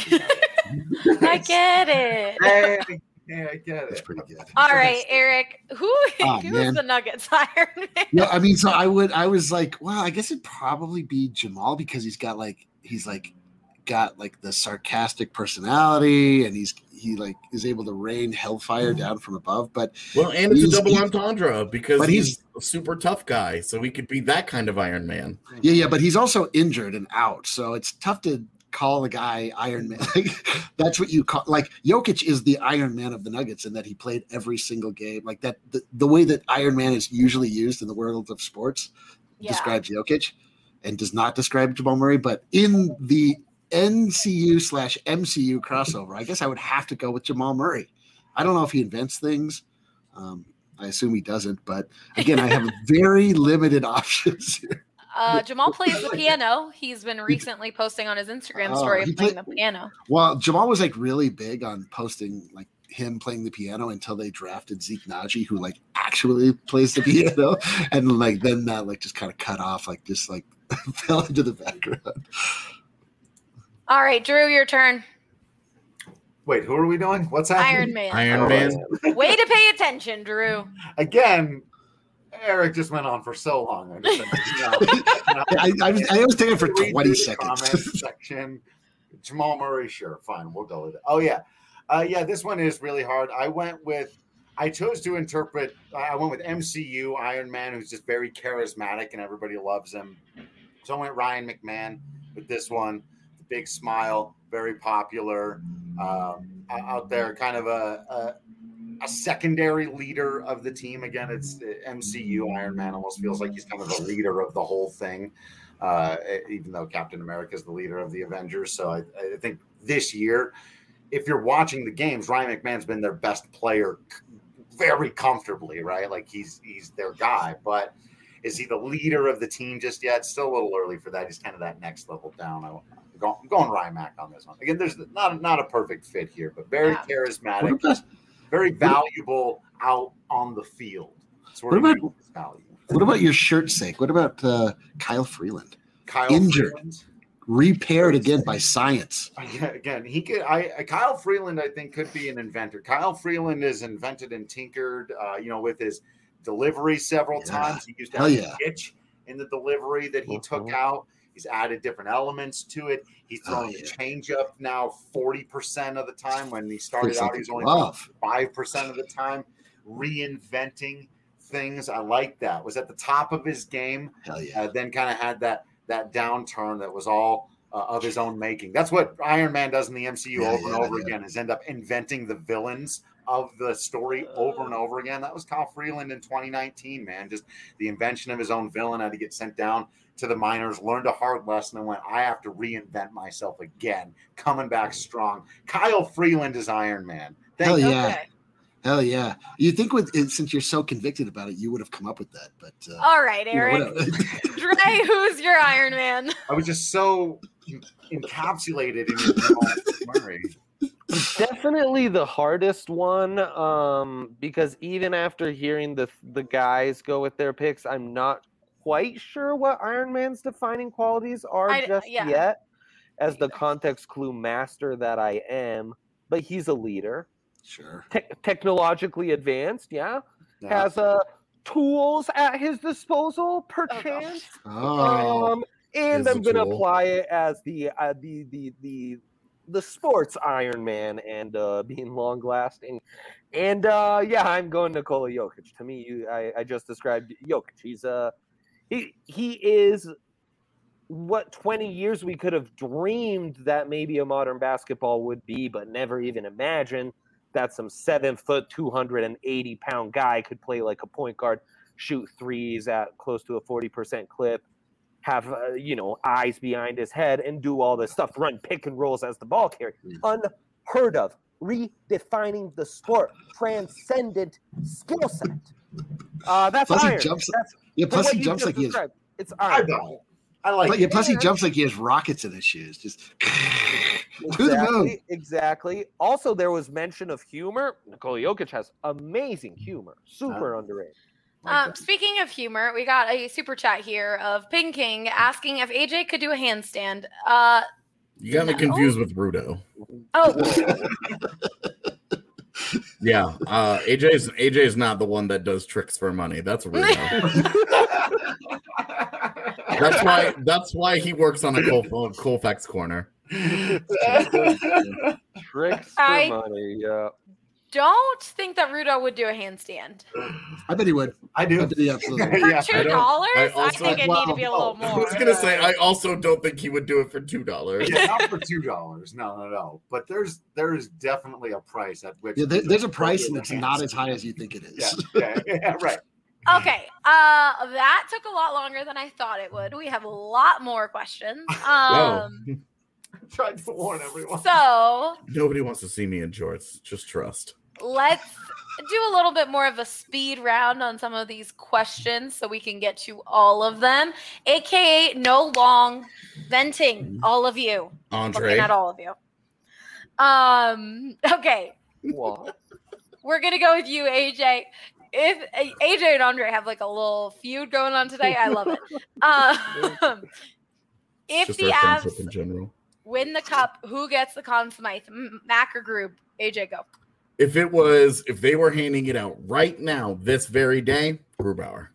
I get it. Hey, I get it. That's pretty good. All right, Eric. Who's the Nuggets Iron Man? No, I mean, so I was like, well, I guess it'd probably be Jamal because he's got the sarcastic personality, and he is able to rain hellfire down from above. But and it's a double entendre because he's a super tough guy, so he could be that kind of Iron Man. Yeah, but he's also injured and out, so it's tough to call the guy Iron Man. That's what you call. Like Jokic is the Iron Man of the Nuggets in that he played every single game. Like that, the way that Iron Man is usually used in the world of sports describes Jokic, and does not describe Jamal Murray. But in the NCU/MCU crossover, I guess I would have to go with Jamal Murray. I don't know if he invents things. I assume he doesn't, but again, I have very limited options here. Jamal plays the piano. He's been recently posting on his Instagram story of playing the piano. Well, Jamal was like really big on posting like him playing the piano until they drafted Zeke Naji, who like actually plays the piano, and like then that like just kind of cut off, like just like fell into the background. All right, Drew, your turn. Wait, who are we doing? What's happening? Iron Man. Way to pay attention, Drew. Again, Eric just went on for so long. I was thinking for 20 seconds. Comment section. Jamal Murray, sure, fine, we'll go with it. Oh yeah, this one is really hard. I went with MCU Iron Man, who's just very charismatic and everybody loves him. So I went Ryan McMahon with this one. The big smile, very popular out there, kind of a secondary leader of the team. Again, it's MCU Iron Man. Almost feels like he's kind of the leader of the whole thing, even though Captain America is the leader of the Avengers. So I think this year, if you're watching the games, Ryan McMahon's been their best player very comfortably, right? Like he's their guy, but is he the leader of the team just yet? Still a little early for that. He's kind of that next level down. I'm going Ryan Mac on this one. Again, there's not a perfect fit here, but very charismatic, very valuable out on the field. What about your shirt's sake? What about Kyle Freeland? Injured. Freeland? Repaired again by science. Again, he could. Kyle Freeland, I think, could be an inventor. Kyle Freeland is invented and tinkered, with his delivery several times. He used to have a pitch in the delivery that he took out. He's added different elements to it. He's throwing the changeup now 40% of the time. When he started out, he was only 5% of the time. Reinventing things. I like that. Was at the top of his game. Then kind of had that downturn that was all of his own making. That's what Iron Man does in the MCU over and over again, is end up inventing the villains of the story over and over again. That was Kyle Freeland in 2019, man. Just the invention of his own villain. Had to get sent down to the minors, learned a hard lesson, and went, I have to reinvent myself again, coming back strong. Kyle Freeland is Iron Man. Hell yeah. You think since you're so convicted about it, you would have come up with that. But all right, Eric. Dre, who's your Iron Man? I was just so encapsulated in your Murray. Definitely the hardest one, because even after hearing the guys go with their picks, I'm not quite sure what Iron Man's defining qualities are yet, as the context clue master that I am. But he's a leader. Sure. Technologically advanced, has tools at his disposal, perchance. And I'm going to apply it as the sports Iron Man and being long lasting. And I'm going Nikola Jokic. To me, I just described Jokic. He's he is what 20 years we could have dreamed that maybe a modern basketball would be, but never even imagined that some 7 foot, 280-pound guy could play like a point guard, shoot threes at close to a 40% clip, have eyes behind his head, and do all this stuff, run pick and rolls as the ball carrier. Unheard of. Redefining the sport. Transcendent skill set. That's plus Iron. He jumps, plus he jumps like he is. It's Iron. I like it. Plus he jumps like he has rockets in his shoes. Just Exactly. Also, there was mention of humor. Nikola Jokic has amazing humor. Super underrated. Speaking of humor, we got a super chat here of Ping King asking if AJ could do a handstand. You got me confused with Rudo. Oh. Yeah. AJ is not the one that does tricks for money. That's Rudo. That's why he works on a Colfax corner. Tricks for money, yeah. Don't think that Rudo would do a handstand. I bet he would. I do. I bet he absolutely. For $2? I think it need to be a little more. I was gonna say I also don't think he would do it for $2. Yeah, not for $2. No. But there's definitely a price at which there's a price, and it's not as high as you think it is. Yeah, right. Okay, that took a lot longer than I thought it would. We have a lot more questions. Tried to warn everyone. So nobody wants to see me in jorts. Just trust. Let's do a little bit more of a speed round on some of these questions so we can get to all of them. AKA no long venting, all of you. Andre. Looking at all of you. Okay. What? We're going to go with you, AJ. If AJ and Andre have like a little feud going on today, I love it. If Just the our friendship Avs in general. win the cup, who gets the Conn Smythe? Mac or Grub? AJ, go. If they were handing it out right now, this very day, Grubauer.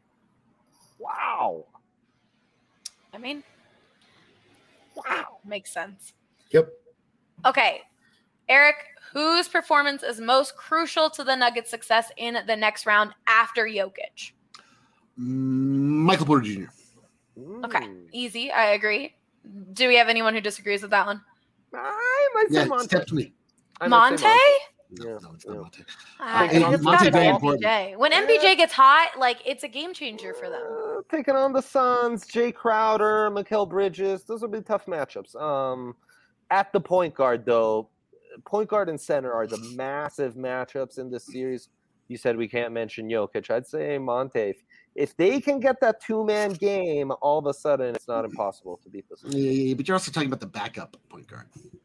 Wow. I mean, wow. Makes sense. Yep. Okay. Eric, whose performance is most crucial to the Nuggets' success in the next round after Jokic? Michael Porter Jr. Okay. Easy. I agree. Do we have anyone who disagrees with that one? I might say Yeah, Monte. step to me. Monte? No, it's not Monte. It's Monte got to be very important. MPJ. When MPJ gets hot, like, it's a game changer for them. Taking on the Suns, Jay Crowder, Mikal Bridges. Those will be tough matchups. At the point guard, though, point guard and center are the massive matchups in this series. You said we can't mention Jokic. I'd say Monte. If they can get that two-man game, all of a sudden it's not impossible to beat this. Yeah, but you're also talking about the backup point guard.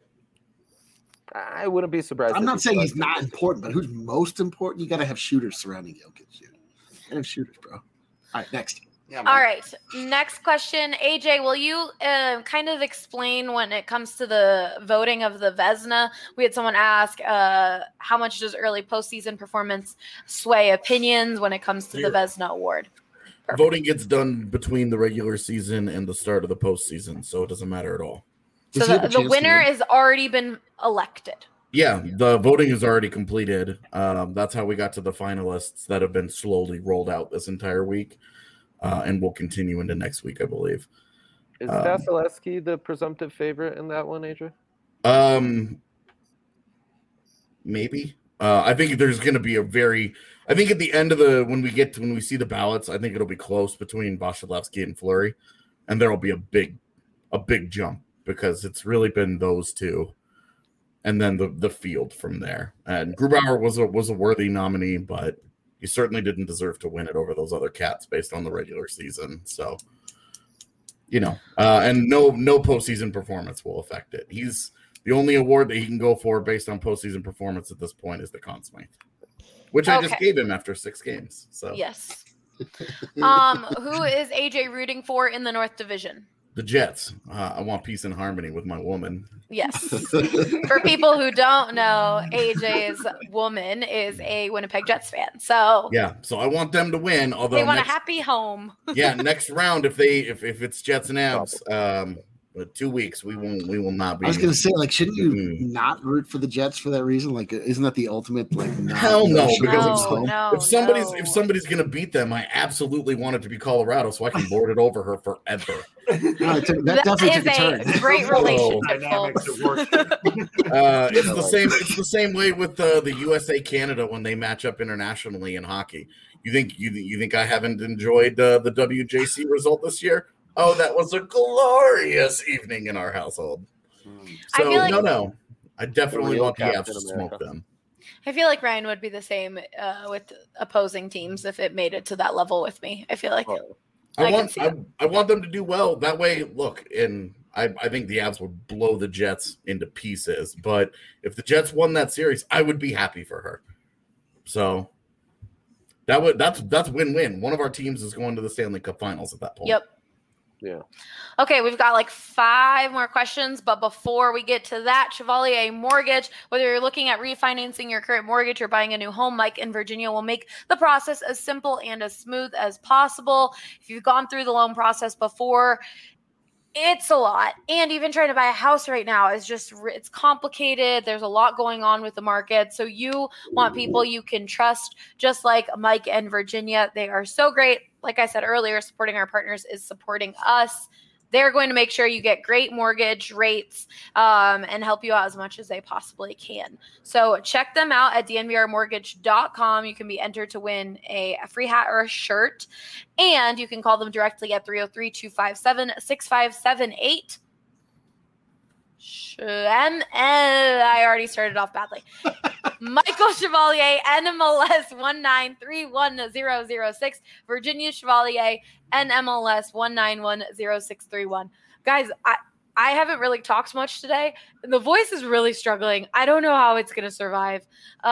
I wouldn't be surprised. I'm not saying he's not important, but who's most important? You got to have shooters surrounding Jokic. You got to have shooters, bro. All right, next. Yeah, All right. Next question. AJ, will you kind of explain when it comes to the voting of the Vezina? We had someone ask how much does early postseason performance sway opinions when it comes to the Vezina Award? Perfect. Voting gets done between the regular season and the start of the postseason, so it doesn't matter at all. So the winner has already been elected. Yeah, the voting is already completed. That's how we got to the finalists that have been slowly rolled out this entire week. And will continue into next week, I believe. Is Vasilevsky the presumptive favorite in that one, Adrian? Maybe. I think there's going to be I think at the end of when we see the ballots, I think it'll be close between Vasilevsky and Fleury, and there'll be a big jump because it's really been those two, and then the field from there. And Grubauer was a worthy nominee, but he certainly didn't deserve to win it over those other cats based on the regular season. So, and no postseason performance will affect it. He's the only award that he can go for based on postseason performance at this point is the Conn Smythe, which I just gave him after 6 games. So yes. Who is AJ rooting for in the North Division? The Jets. I want peace and harmony with my woman. Yes. For people who don't know, AJ's woman is a Winnipeg Jets fan. So yeah, so I want them to win. Although they want a happy home. Yeah, next round if it's Jets and Avs, 2 weeks we will not be. I was gonna say, like, shouldn't you not root for the Jets for that reason? Like, isn't that the ultimate? Like, hell no, because if somebody's gonna beat them, I absolutely want it to be Colorado so I can lord it over her forever. That definitely took a turn. Great relationship, folks. It's the same way with the USA Canada when they match up internationally in hockey. You think I haven't enjoyed the WJC result this year? Oh, that was a glorious evening in our household. So no, I definitely want the Avs to smoke them. I feel like Ryan would be the same with opposing teams if it made it to that level with me. I feel like I want them to do well. That way, look, and I think the Avs would blow the Jets into pieces. But if the Jets won that series, I would be happy for her. So that's win-win. One of our teams is going to the Stanley Cup Finals at that point. Yep. Yeah. Okay, we've got like 5 more questions, but before we get to that, Chevalier Mortgage, whether you're looking at refinancing your current mortgage or buying a new home, Mike in Virginia will make the process as simple and as smooth as possible. If you've gone through the loan process before, it's a lot. And even trying to buy a house right now is it's complicated. There's a lot going on with the market. So you want people you can trust, just like Mike and Virginia. They are so great. Like I said earlier, supporting our partners is supporting us. They're going to make sure you get great mortgage rates and help you out as much as they possibly can. So check them out at dnvrmortgage.com. You can be entered to win a free hat or a shirt. And you can call them directly at 303-257-6578. I already started off badly. Michael Chevalier, NMLS 1931006. Virginia Chevalier, NMLS 1910631. Guys, I haven't really talked much today. The voice is really struggling. I don't know how it's going to survive.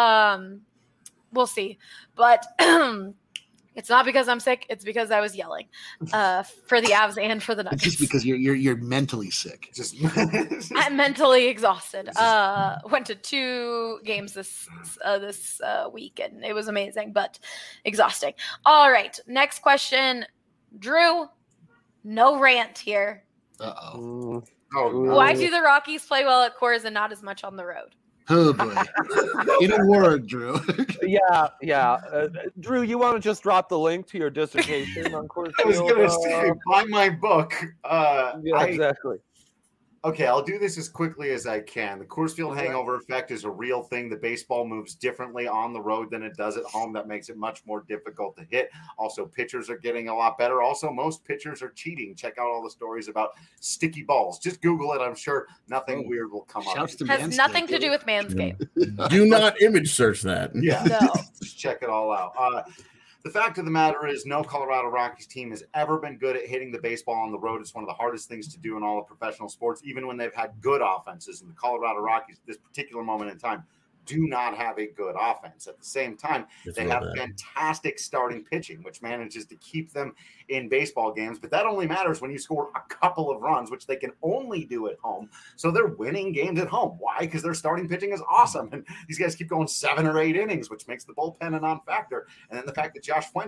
We'll see. But it's not because I'm sick. It's because I was yelling for the Avs and for the Nuggets. It's just because you're mentally sick. I'm mentally exhausted. Went to 2 games this week, and it was amazing, but exhausting. All right, next question. Drew, no rant here. Uh-oh. Why do the Rockies play well at Coors and not as much on the road? Oh, boy. In a word, Drew. Yeah. Drew, you want to just drop the link to your dissertation on Coors I was Field? going to say, buy my book. Exactly. Okay, I'll do this as quickly as I can. The Coors Field hangover effect is a real thing. The baseball moves differently on the road than it does at home. That makes it much more difficult to hit. Also, pitchers are getting a lot better. Also, most pitchers are cheating. Check out all the stories about sticky balls. Just Google it. I'm sure nothing weird will come up. Has nothing to do with Manscaped. Do not image search that. Yeah, No. just check it all out. The fact of the matter is no Colorado Rockies team has ever been good at hitting the baseball on the road. It's one of the hardest things to do in all of professional sports, even when they've had good offenses. And the Colorado Rockies, at this particular moment in time, do not have a good offense. At the same time, they have fantastic starting pitching, which manages to keep them in baseball games. But that only matters when you score a couple of runs, which they can only do at home. So they're winning games at home. Why? Because their starting pitching is awesome. And these guys keep going 7 or 8 innings, which makes the bullpen a non-factor. And then the fact that Joshua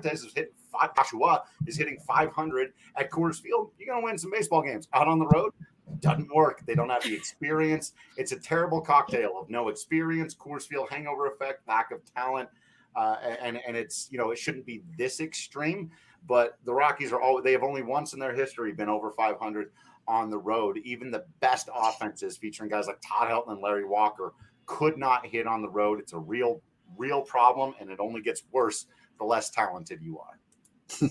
is hitting 500 at Coors Field, you're going to win some baseball games. Out on the road, doesn't work. They don't have the experience. It's a terrible cocktail of no experience, Coors Field hangover effect, lack of talent, and it's, it shouldn't be this extreme. But the Rockies they have only once in their history been over 500 on the road. Even the best offenses featuring guys like Todd Helton and Larry Walker could not hit on the road. It's a real problem, and it only gets worse the less talented you are.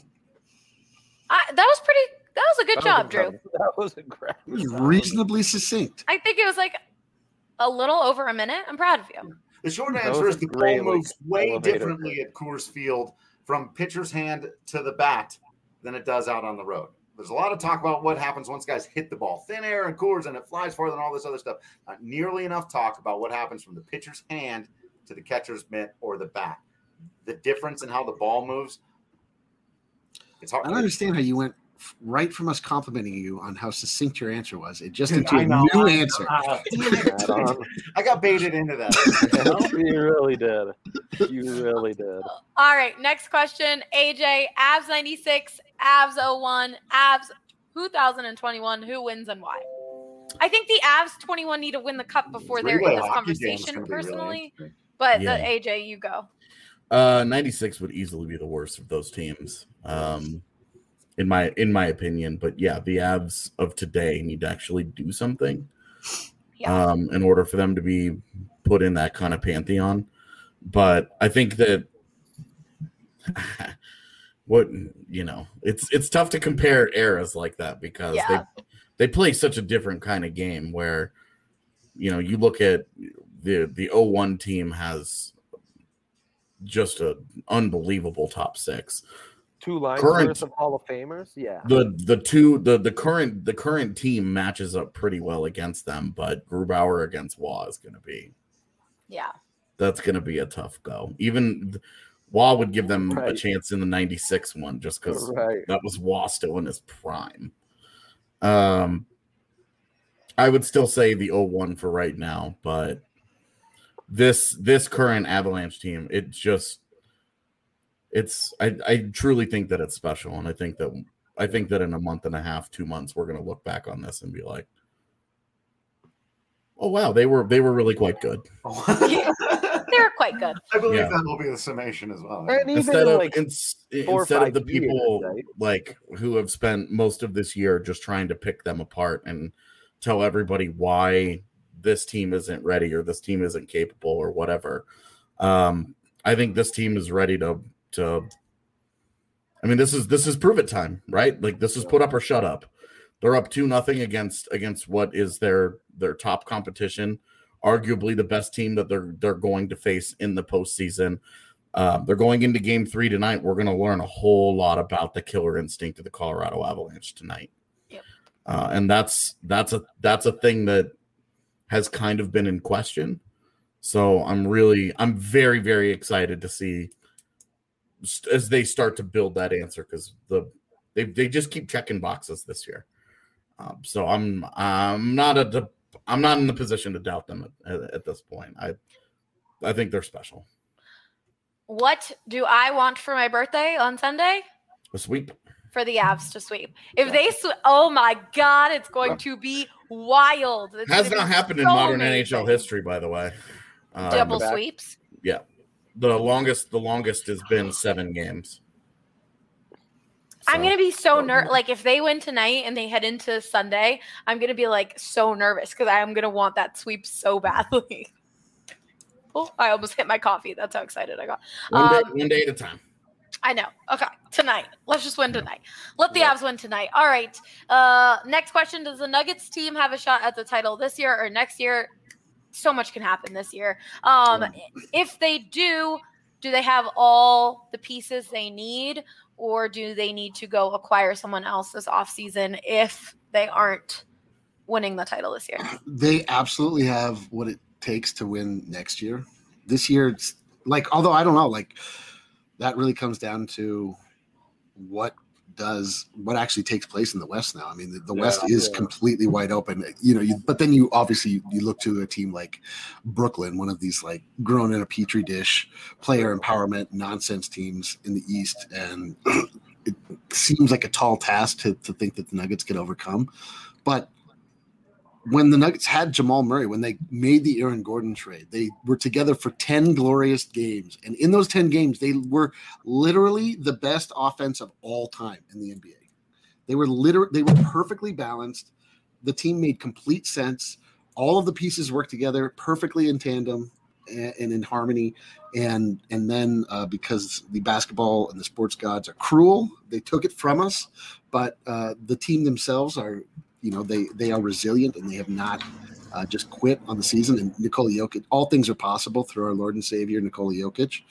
That was a good job, Drew. That was incredible. It was reasonably succinct. I think it was like a little over a minute. I'm proud of you. The short answer is the ball moves way differently at Coors Field from pitcher's hand to the bat than it does out on the road. There's a lot of talk about what happens once guys hit the ball. Thin air and Coors and it flies farther and all this other stuff. Not nearly enough talk about what happens from the pitcher's hand to the catcher's mitt or the bat. The difference in how the ball moves, it's hard. I don't understand how you went right from us complimenting you on how succinct your answer was. It just into a new answer. I got baited into that. You really did. You really did. All right, next question. AJ, Avs 96, Avs 01, Avs 2021. Who wins and why? I think the Avs 21 need to win the cup before they're in this conversation personally. Really, but AJ, you go. 96 would easily be the worst of those teams. In my opinion, but yeah, the Avs of today need to actually do something in order for them to be put in that kind of pantheon. But I think that it's tough to compare eras like that because they play such a different kind of game where you look at the 01 team has just an unbelievable top 6. 2 lines worth of Hall of Famers, yeah. The current team matches up pretty well against them, but Grubauer against Waugh is going to be, that's going to be a tough go. Even Waugh would give them a chance in the 96 one just because that was Waugh still in his prime. I would still say the 01 for right now, but this current Avalanche team, I truly think that it's special, and I think that in a month and a half, 2 months, we're going to look back on this and be like, "Oh wow, they were really quite good." They were quite good. I believe that will be the summation as well. And instead of the years, people like who have spent most of this year just trying to pick them apart and tell everybody why this team isn't ready or this team isn't capable or whatever. I think this team is ready to this is prove it time, right? Like this is put up or shut up. They're up 2-0 against what is their top competition, arguably the best team that they're going to face in the postseason. They're going into Game 3 tonight. We're going to learn a whole lot about the killer instinct of the Colorado Avalanche tonight. Yep. And that's a thing that has kind of been in question. So I'm very, very excited to see as they start to build that answer, because they just keep checking boxes this year. So I'm not in the position to doubt them at this point. I think they're special. What do I want for my birthday on Sunday? A sweep. For the Avs to sweep. If they oh my God, it's going to be wild. It's has not happened in modern NHL history, by the way. Double sweeps? Yeah. The longest has been 7 games. So, I'm going to be so nervous. Like, if they win tonight and they head into Sunday, I'm going to be, like, so nervous because I'm going to want that sweep so badly. Oh, I almost hit my coffee. That's how excited I got. One day at a time. I know. Okay. Tonight. Let's just win tonight. Let the Avs win tonight. All right. Next question. Does the Nuggets team have a shot at the title this year or next year? So much can happen this year. If they do they have all the pieces they need, or do they need to go acquire someone else this offseason if they aren't winning the title this year? They absolutely have what it takes to win next year. This year, it's like, although I don't know, like, that really comes down to what actually takes place in the West now. I mean, the West is completely wide open, but then you obviously look to a team like Brooklyn, one of these like grown in a petri dish player empowerment nonsense teams in the East. And it seems like a tall task to think that the Nuggets can overcome. But when the Nuggets had Jamal Murray, when they made the Aaron Gordon trade, they were together for 10 glorious games. And in those 10 games, they were literally the best offense of all time in the NBA. They were perfectly balanced. The team made complete sense. All of the pieces worked together perfectly in tandem and in harmony. And then because the basketball and the sports gods are cruel, they took it from us. But the team themselves are, they are resilient, and they have not just quit on the season. And Nikola Jokic, all things are possible through our Lord and Savior, Nikola Jokic.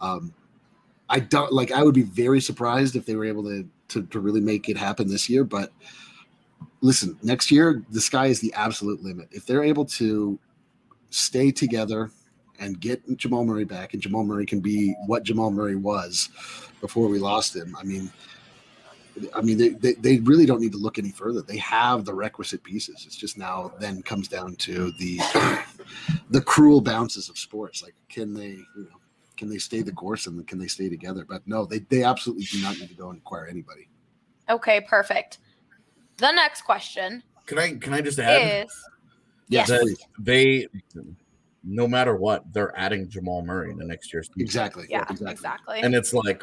I would be very surprised if they were able to really make it happen this year. But listen, next year, the sky is the absolute limit. If they're able to stay together and get Jamal Murray back, and Jamal Murray can be what Jamal Murray was before we lost him, I mean, they really don't need to look any further. They have the requisite pieces. It's just now then comes down to the cruel bounces of sports. Like, can they stay the course, and can they stay together? But no, they absolutely do not need to go and acquire anybody. Okay, perfect. The next question. Can I just add? Yes. They, no matter what, they're adding Jamal Murray in the next year's season. Exactly. Yeah, exactly. And it's like,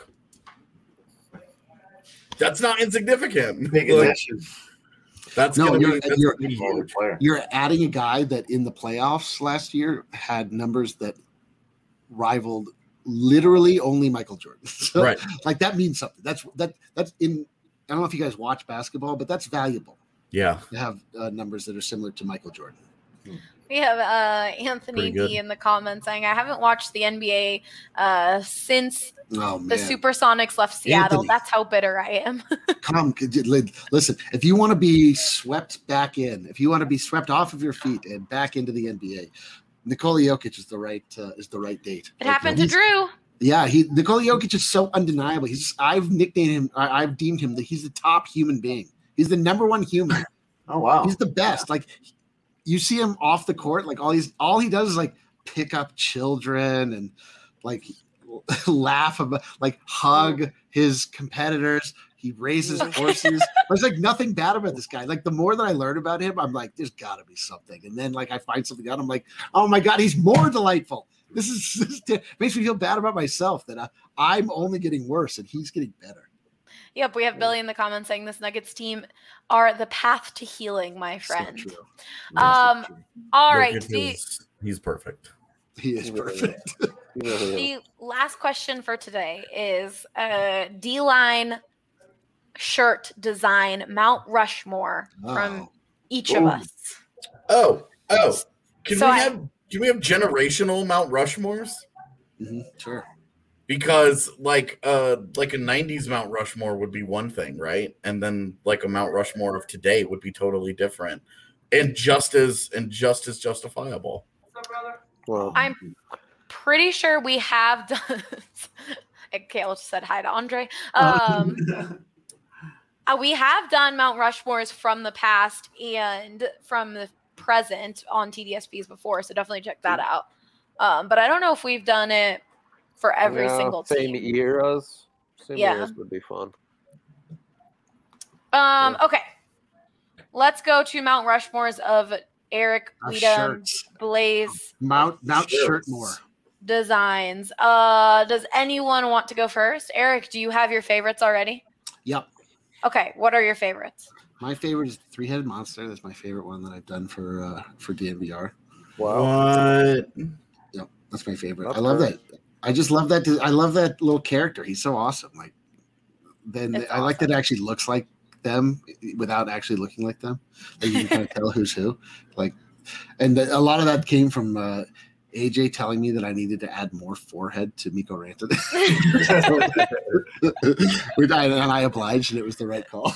that's not insignificant. That's you're adding a guy that in the playoffs last year had numbers that rivaled literally only Michael Jordan. So, right. Like, that means something. That's in. I don't know if you guys watch basketball, but that's valuable. Yeah, to have numbers that are similar to Michael Jordan. We have Anthony D in the comments saying, I haven't watched the NBA since the Supersonics left Seattle. Anthony, that's how bitter I am. Come, listen, if you want to be swept back in, if you want to be swept off of your feet and back into the NBA, Nikola Jokic is the right date. It happened to Drew. Yeah, Nikola Jokic is so undeniable. I've nicknamed him, I've deemed him that he's the top human being. He's the number one human. Oh, wow. He's the best. Like, you see him off the court, like all he does is like pick up children and like laugh about, like hug his competitors. He raises horses. There's like nothing bad about this guy. Like, the more that I learn about him, I'm like, there's got to be something. And then like I find something out. I'm like, oh my God, he's more delightful. This makes me feel bad about myself that I'm only getting worse and he's getting better. Yep, we have Billy in the comments saying this Nuggets team are the path to healing, my friend. So true. All right. He's perfect. He is perfect. The last question for today is D-line shirt design Mount Rushmore from each of us. Can we have generational Mount Rushmores? Mm-hmm. Sure. Because like a 90s Mount Rushmore would be one thing, right? And then like a Mount Rushmore of today would be totally different and just as justifiable. Well, I'm pretty sure we have done. Kale just said hi to Andre. We have done Mount Rushmores from the past and from the present on TDSPs before, so definitely check that out. But I don't know if we've done it for every single same team. eras. Same Yeah. eras would be fun. Okay. Let's go to Mount Rushmores of Eric, Weedham, Blaze, Mount Shirtmore. Designs. Does anyone want to go first? Eric, do you have your favorites already? Yep. Okay, what are your favorites? My favorite is Three-Headed Monster. That's my favorite one that I've done for DNVR. Wow. What? Yep, that's my favorite. That's I love great. that. I just love that. I love that little character. He's so awesome. Like, I like that it actually looks like them without actually looking like them. Like you can kind of tell who's who. Like, and a lot of that came from AJ telling me that I needed to add more forehead to Mikko Rantanen. And I obliged, and it was the right call.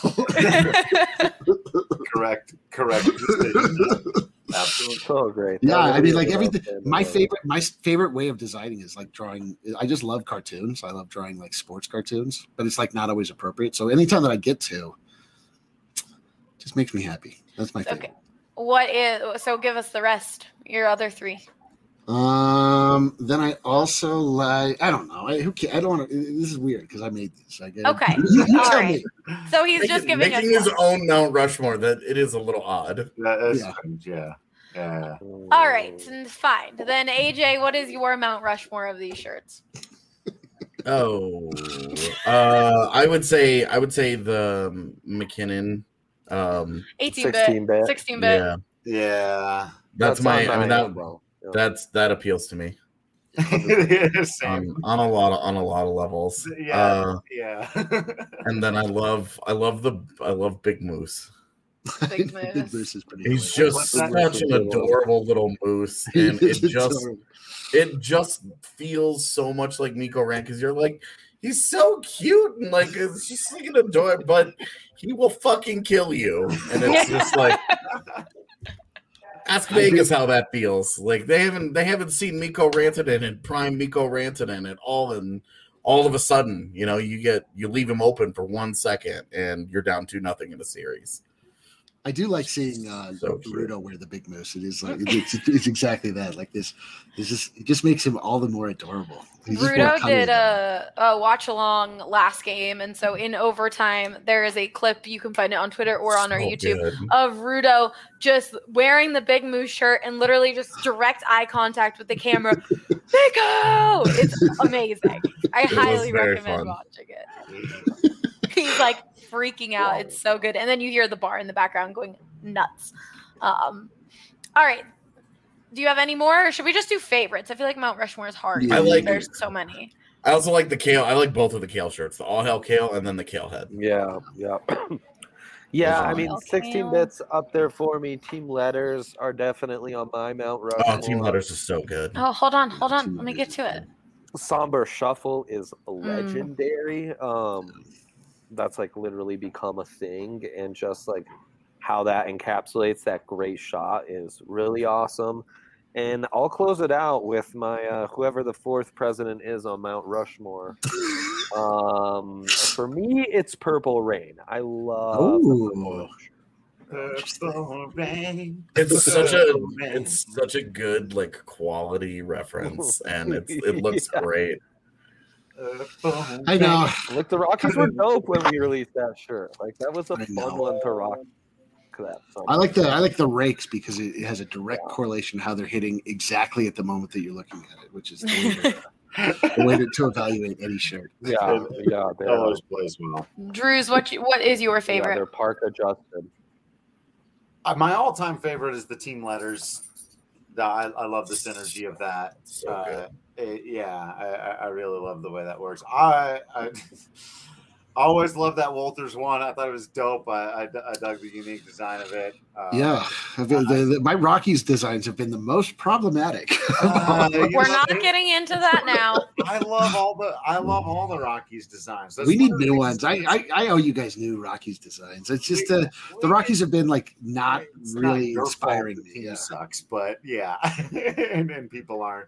Correct. Absolutely. So great. Yeah, That I mean, really like is everything. awesome. My favorite way of designing is like drawing. I just love cartoons. I love drawing like sports cartoons, but it's like not always appropriate. So anytime that I get to, just makes me happy. That's my favorite. Okay. So give us the rest. Your other three. Then I also like. I don't know. I don't want to. This is weird because I made this. I get Okay. You All tell right. me. So he's just giving us making his own Mount Rushmore. That it is a little odd. That's Yeah. strange, yeah. Yeah. All right, fine. Then AJ, what is your Mount Rushmore of these shirts? Oh, I would say the McKinnon. 18-bit, 16-bit. 16-bit. Yeah, Yeah. that's my. I mean that bro. that appeals to me Same. on a lot of levels. Yeah. Yeah. And then I love Big Moose. Big Big Moose. Moose is pretty. He's cool. just What's that? such an adorable little moose, and it just feels so much like Mikko Rantanen because you're like, he's so cute and like it's just like an adorable, but he will fucking kill you, and it's just like. Ask Vegas how that feels. Like they haven't seen Mikko Rantanen and prime Mikko Rantanen at all, and all of a sudden, you leave him open for 1 second and you're down 2-0 in a series. I do like seeing So cute. Rudo wear the big moose. It is like it's exactly that. Like this is it just makes him all the more adorable. He's just more Rudo cuddly did than a watch along last game, and so in overtime, there is a clip you can find it on Twitter or on our So YouTube good. of Rudo just wearing the Big Moose shirt and literally just direct eye contact with the camera. Mikko! It's amazing. I highly very recommend fun. watching it. He's like freaking out. It's so good. And then you hear the bar in the background going nuts. All right. Do you have any more, or should we just do favorites? I feel like Mount Rushmore is hard. Yeah, I like There's so many. I also like the Kale. I like both of the Kale shirts, the All Hell Kale and then the Kale head. Yeah. Yeah, I mean, Okay. 16 bits up there for me. Team letters are definitely on my Mount Rushmore. Oh, Team Letters is so good. Oh, hold on. Let me get to it. Somber Shuffle is legendary. That's like literally become a thing, and just like how that encapsulates that great shot is really awesome. And I'll close it out with my whoever the fourth president is on Mount Rushmore. For me, it's Purple Rain. I love Ooh. It's such a good like quality reference, and it looks Yeah. great. I know. Like the Rockies were dope when we released that shirt. Like that was a I fun know. one to rock. That I like the rakes because it has a direct correlation to how they're hitting exactly at the moment that you're looking at it, which is the way to evaluate any shirt. Yeah, That always plays well. Drews, what is your Yeah, favorite? they're park adjusted. My all-time favorite is the team letters. I love the synergy of that. So good. I really love the way that works. Always loved that Walters one. I thought it was dope. I dug the unique design of it. My Rockies designs have been the most problematic. We're not getting into that now. I love all the Rockies designs. We need new ones. I owe you guys new Rockies designs. It's just the Rockies have been like not really inspiring me. The team sucks, but yeah, and people aren't.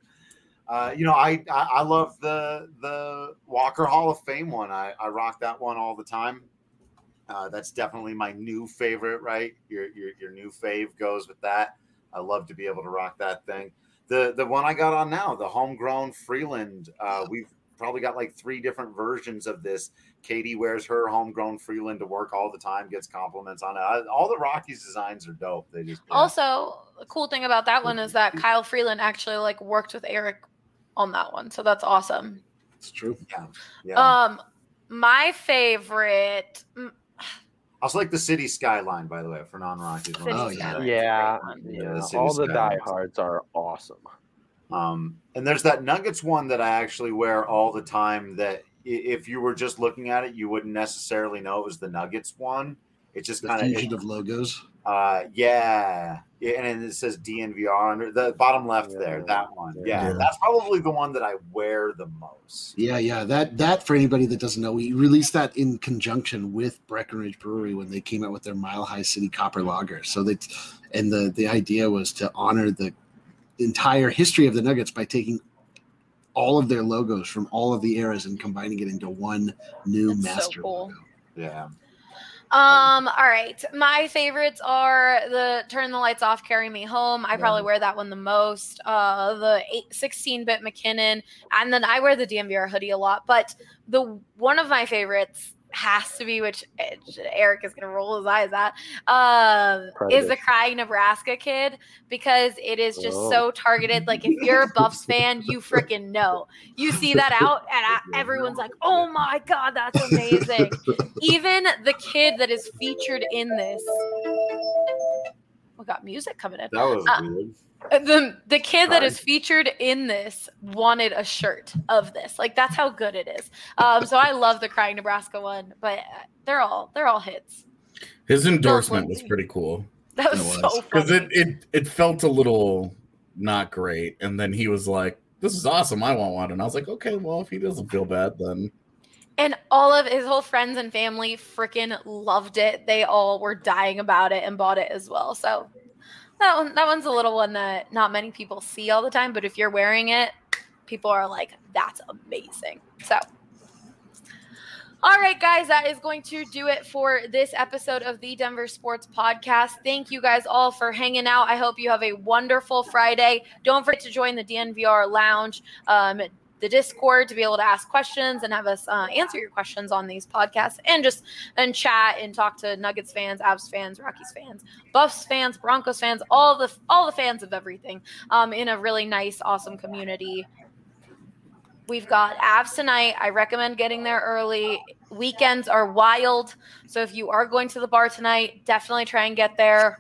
I love the Walker Hall of Fame one. I rock that one all the time. That's definitely my new favorite, right? Your new fave goes with that. I love to be able to rock that thing. The one I got on now, the homegrown Freeland. We've probably got like 3 different versions of this. Katie wears her homegrown Freeland to work all the time, gets compliments on it. All the Rockies designs are dope. They just Also, the cool thing about that one is that Kyle Freeland actually like worked with Eric on that one, so that's awesome. It's true. Yeah. My favorite. I also like the city skyline, by the way, for non-Rockies. Yeah. All the diehards are awesome. And there's that Nuggets one that I actually wear all the time. That if you were just looking at it, you wouldn't necessarily know it was the Nuggets one. It's just kind fusion of logos. Yeah, and it says DNVR under the bottom left there. That one, yeah, that's probably the one that I wear the most. Yeah. That for anybody that doesn't know, we released that in conjunction with Breckenridge Brewery when they came out with their Mile High City Copper Lager. So the idea was to honor the entire history of the Nuggets by taking all of their logos from all of the eras and combining it into one new master logo. Yeah. All right. My favorites are the Turn the Lights Off, Carry Me Home. I probably wear that one the most. The 16-bit McKinnon. And then I wear the DMVR hoodie a lot. But one of my favorites has to be, which Eric is going to roll his eyes at, is the Crying Nebraska Kid, because it is just so targeted. Like, if you're a Buffs fan, you freaking know. You see that out, and everyone's like, oh my God, that's amazing. Even the kid that is featured in this. We got music coming in. That was weird. The kid that is featured in this wanted a shirt of this. Like, that's how good it is. So I love the Crying Nebraska one, but they're all hits. His endorsement was pretty cool. That was so funny. Because it felt a little not great, and then he was like, "This is awesome. I want one." And I was like, "Okay, well, if he doesn't feel bad, then." And all of his whole friends and family freaking loved it. They all were dying about it and bought it as well. So. That one's a little one that not many people see all the time, but if you're wearing it, people are like, that's amazing. So, all right, guys, that is going to do it for this episode of the Denver Sports Podcast. Thank you guys all for hanging out. I hope you have a wonderful Friday. Don't forget to join the DNVR Lounge, the Discord, to be able to ask questions and have us answer your questions on these podcasts, and chat and talk to Nuggets fans, Avs fans, Rockies fans, Buffs fans, Broncos fans, all the fans of everything, in a really nice, awesome community. We've got Avs tonight. I recommend getting there early. Weekends are wild, so if you are going to the bar tonight, definitely try and get there.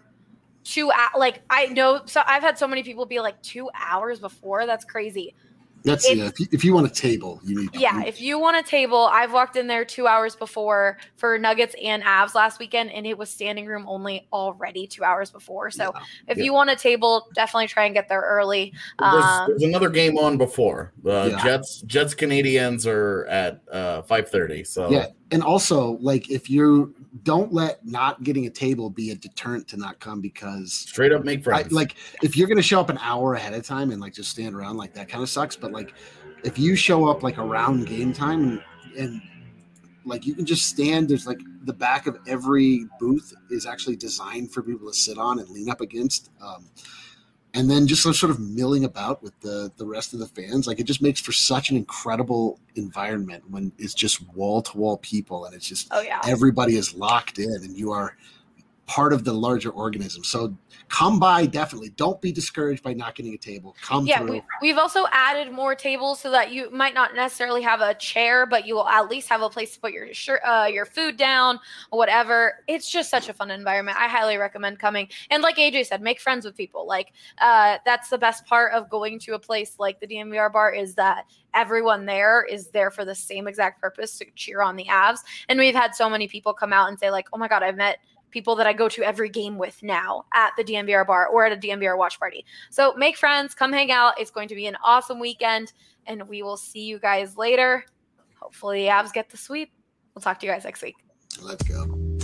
I know, so I've had so many people be like 2 hours before. That's crazy. That's if you want a table, you need. Yeah, if you want a table, I've walked in there 2 hours before for Nuggets and Avs last weekend, and it was standing room only already 2 hours before. So if you want a table, definitely try and get there early. There's another game on before. Jets Canadians are at 5:30. So yeah, and also like if you don't let not getting a table be a deterrent to not come, because straight up make friends. Like if you're gonna show up an hour ahead of time and like just stand around, like that kind of sucks. But like if you show up like around game time and like you can just stand, there's like the back of every booth is actually designed for people to sit on and lean up against. And then just sort of milling about with the rest of the fans. Like it just makes for such an incredible environment when it's just wall to wall people and it's just everybody is locked in and you are part of the larger organism. So come by, definitely. Don't be discouraged by not getting a table. Come through. We've also added more tables so that you might not necessarily have a chair, but you will at least have a place to put your food down or whatever. It's just such a fun environment. I highly recommend coming. And like AJ said, make friends with people. Like that's the best part of going to a place like the DNVR bar is that everyone there is there for the same exact purpose, to cheer on the Avs. And we've had so many people come out and say like, oh my God, I've met people that I go to every game with now at the DNVR bar or at a DNVR watch party. So make friends, come hang out. It's going to be an awesome weekend, and we will see you guys later. Hopefully the Avs get the sweep. We'll talk to you guys next week. Let's go.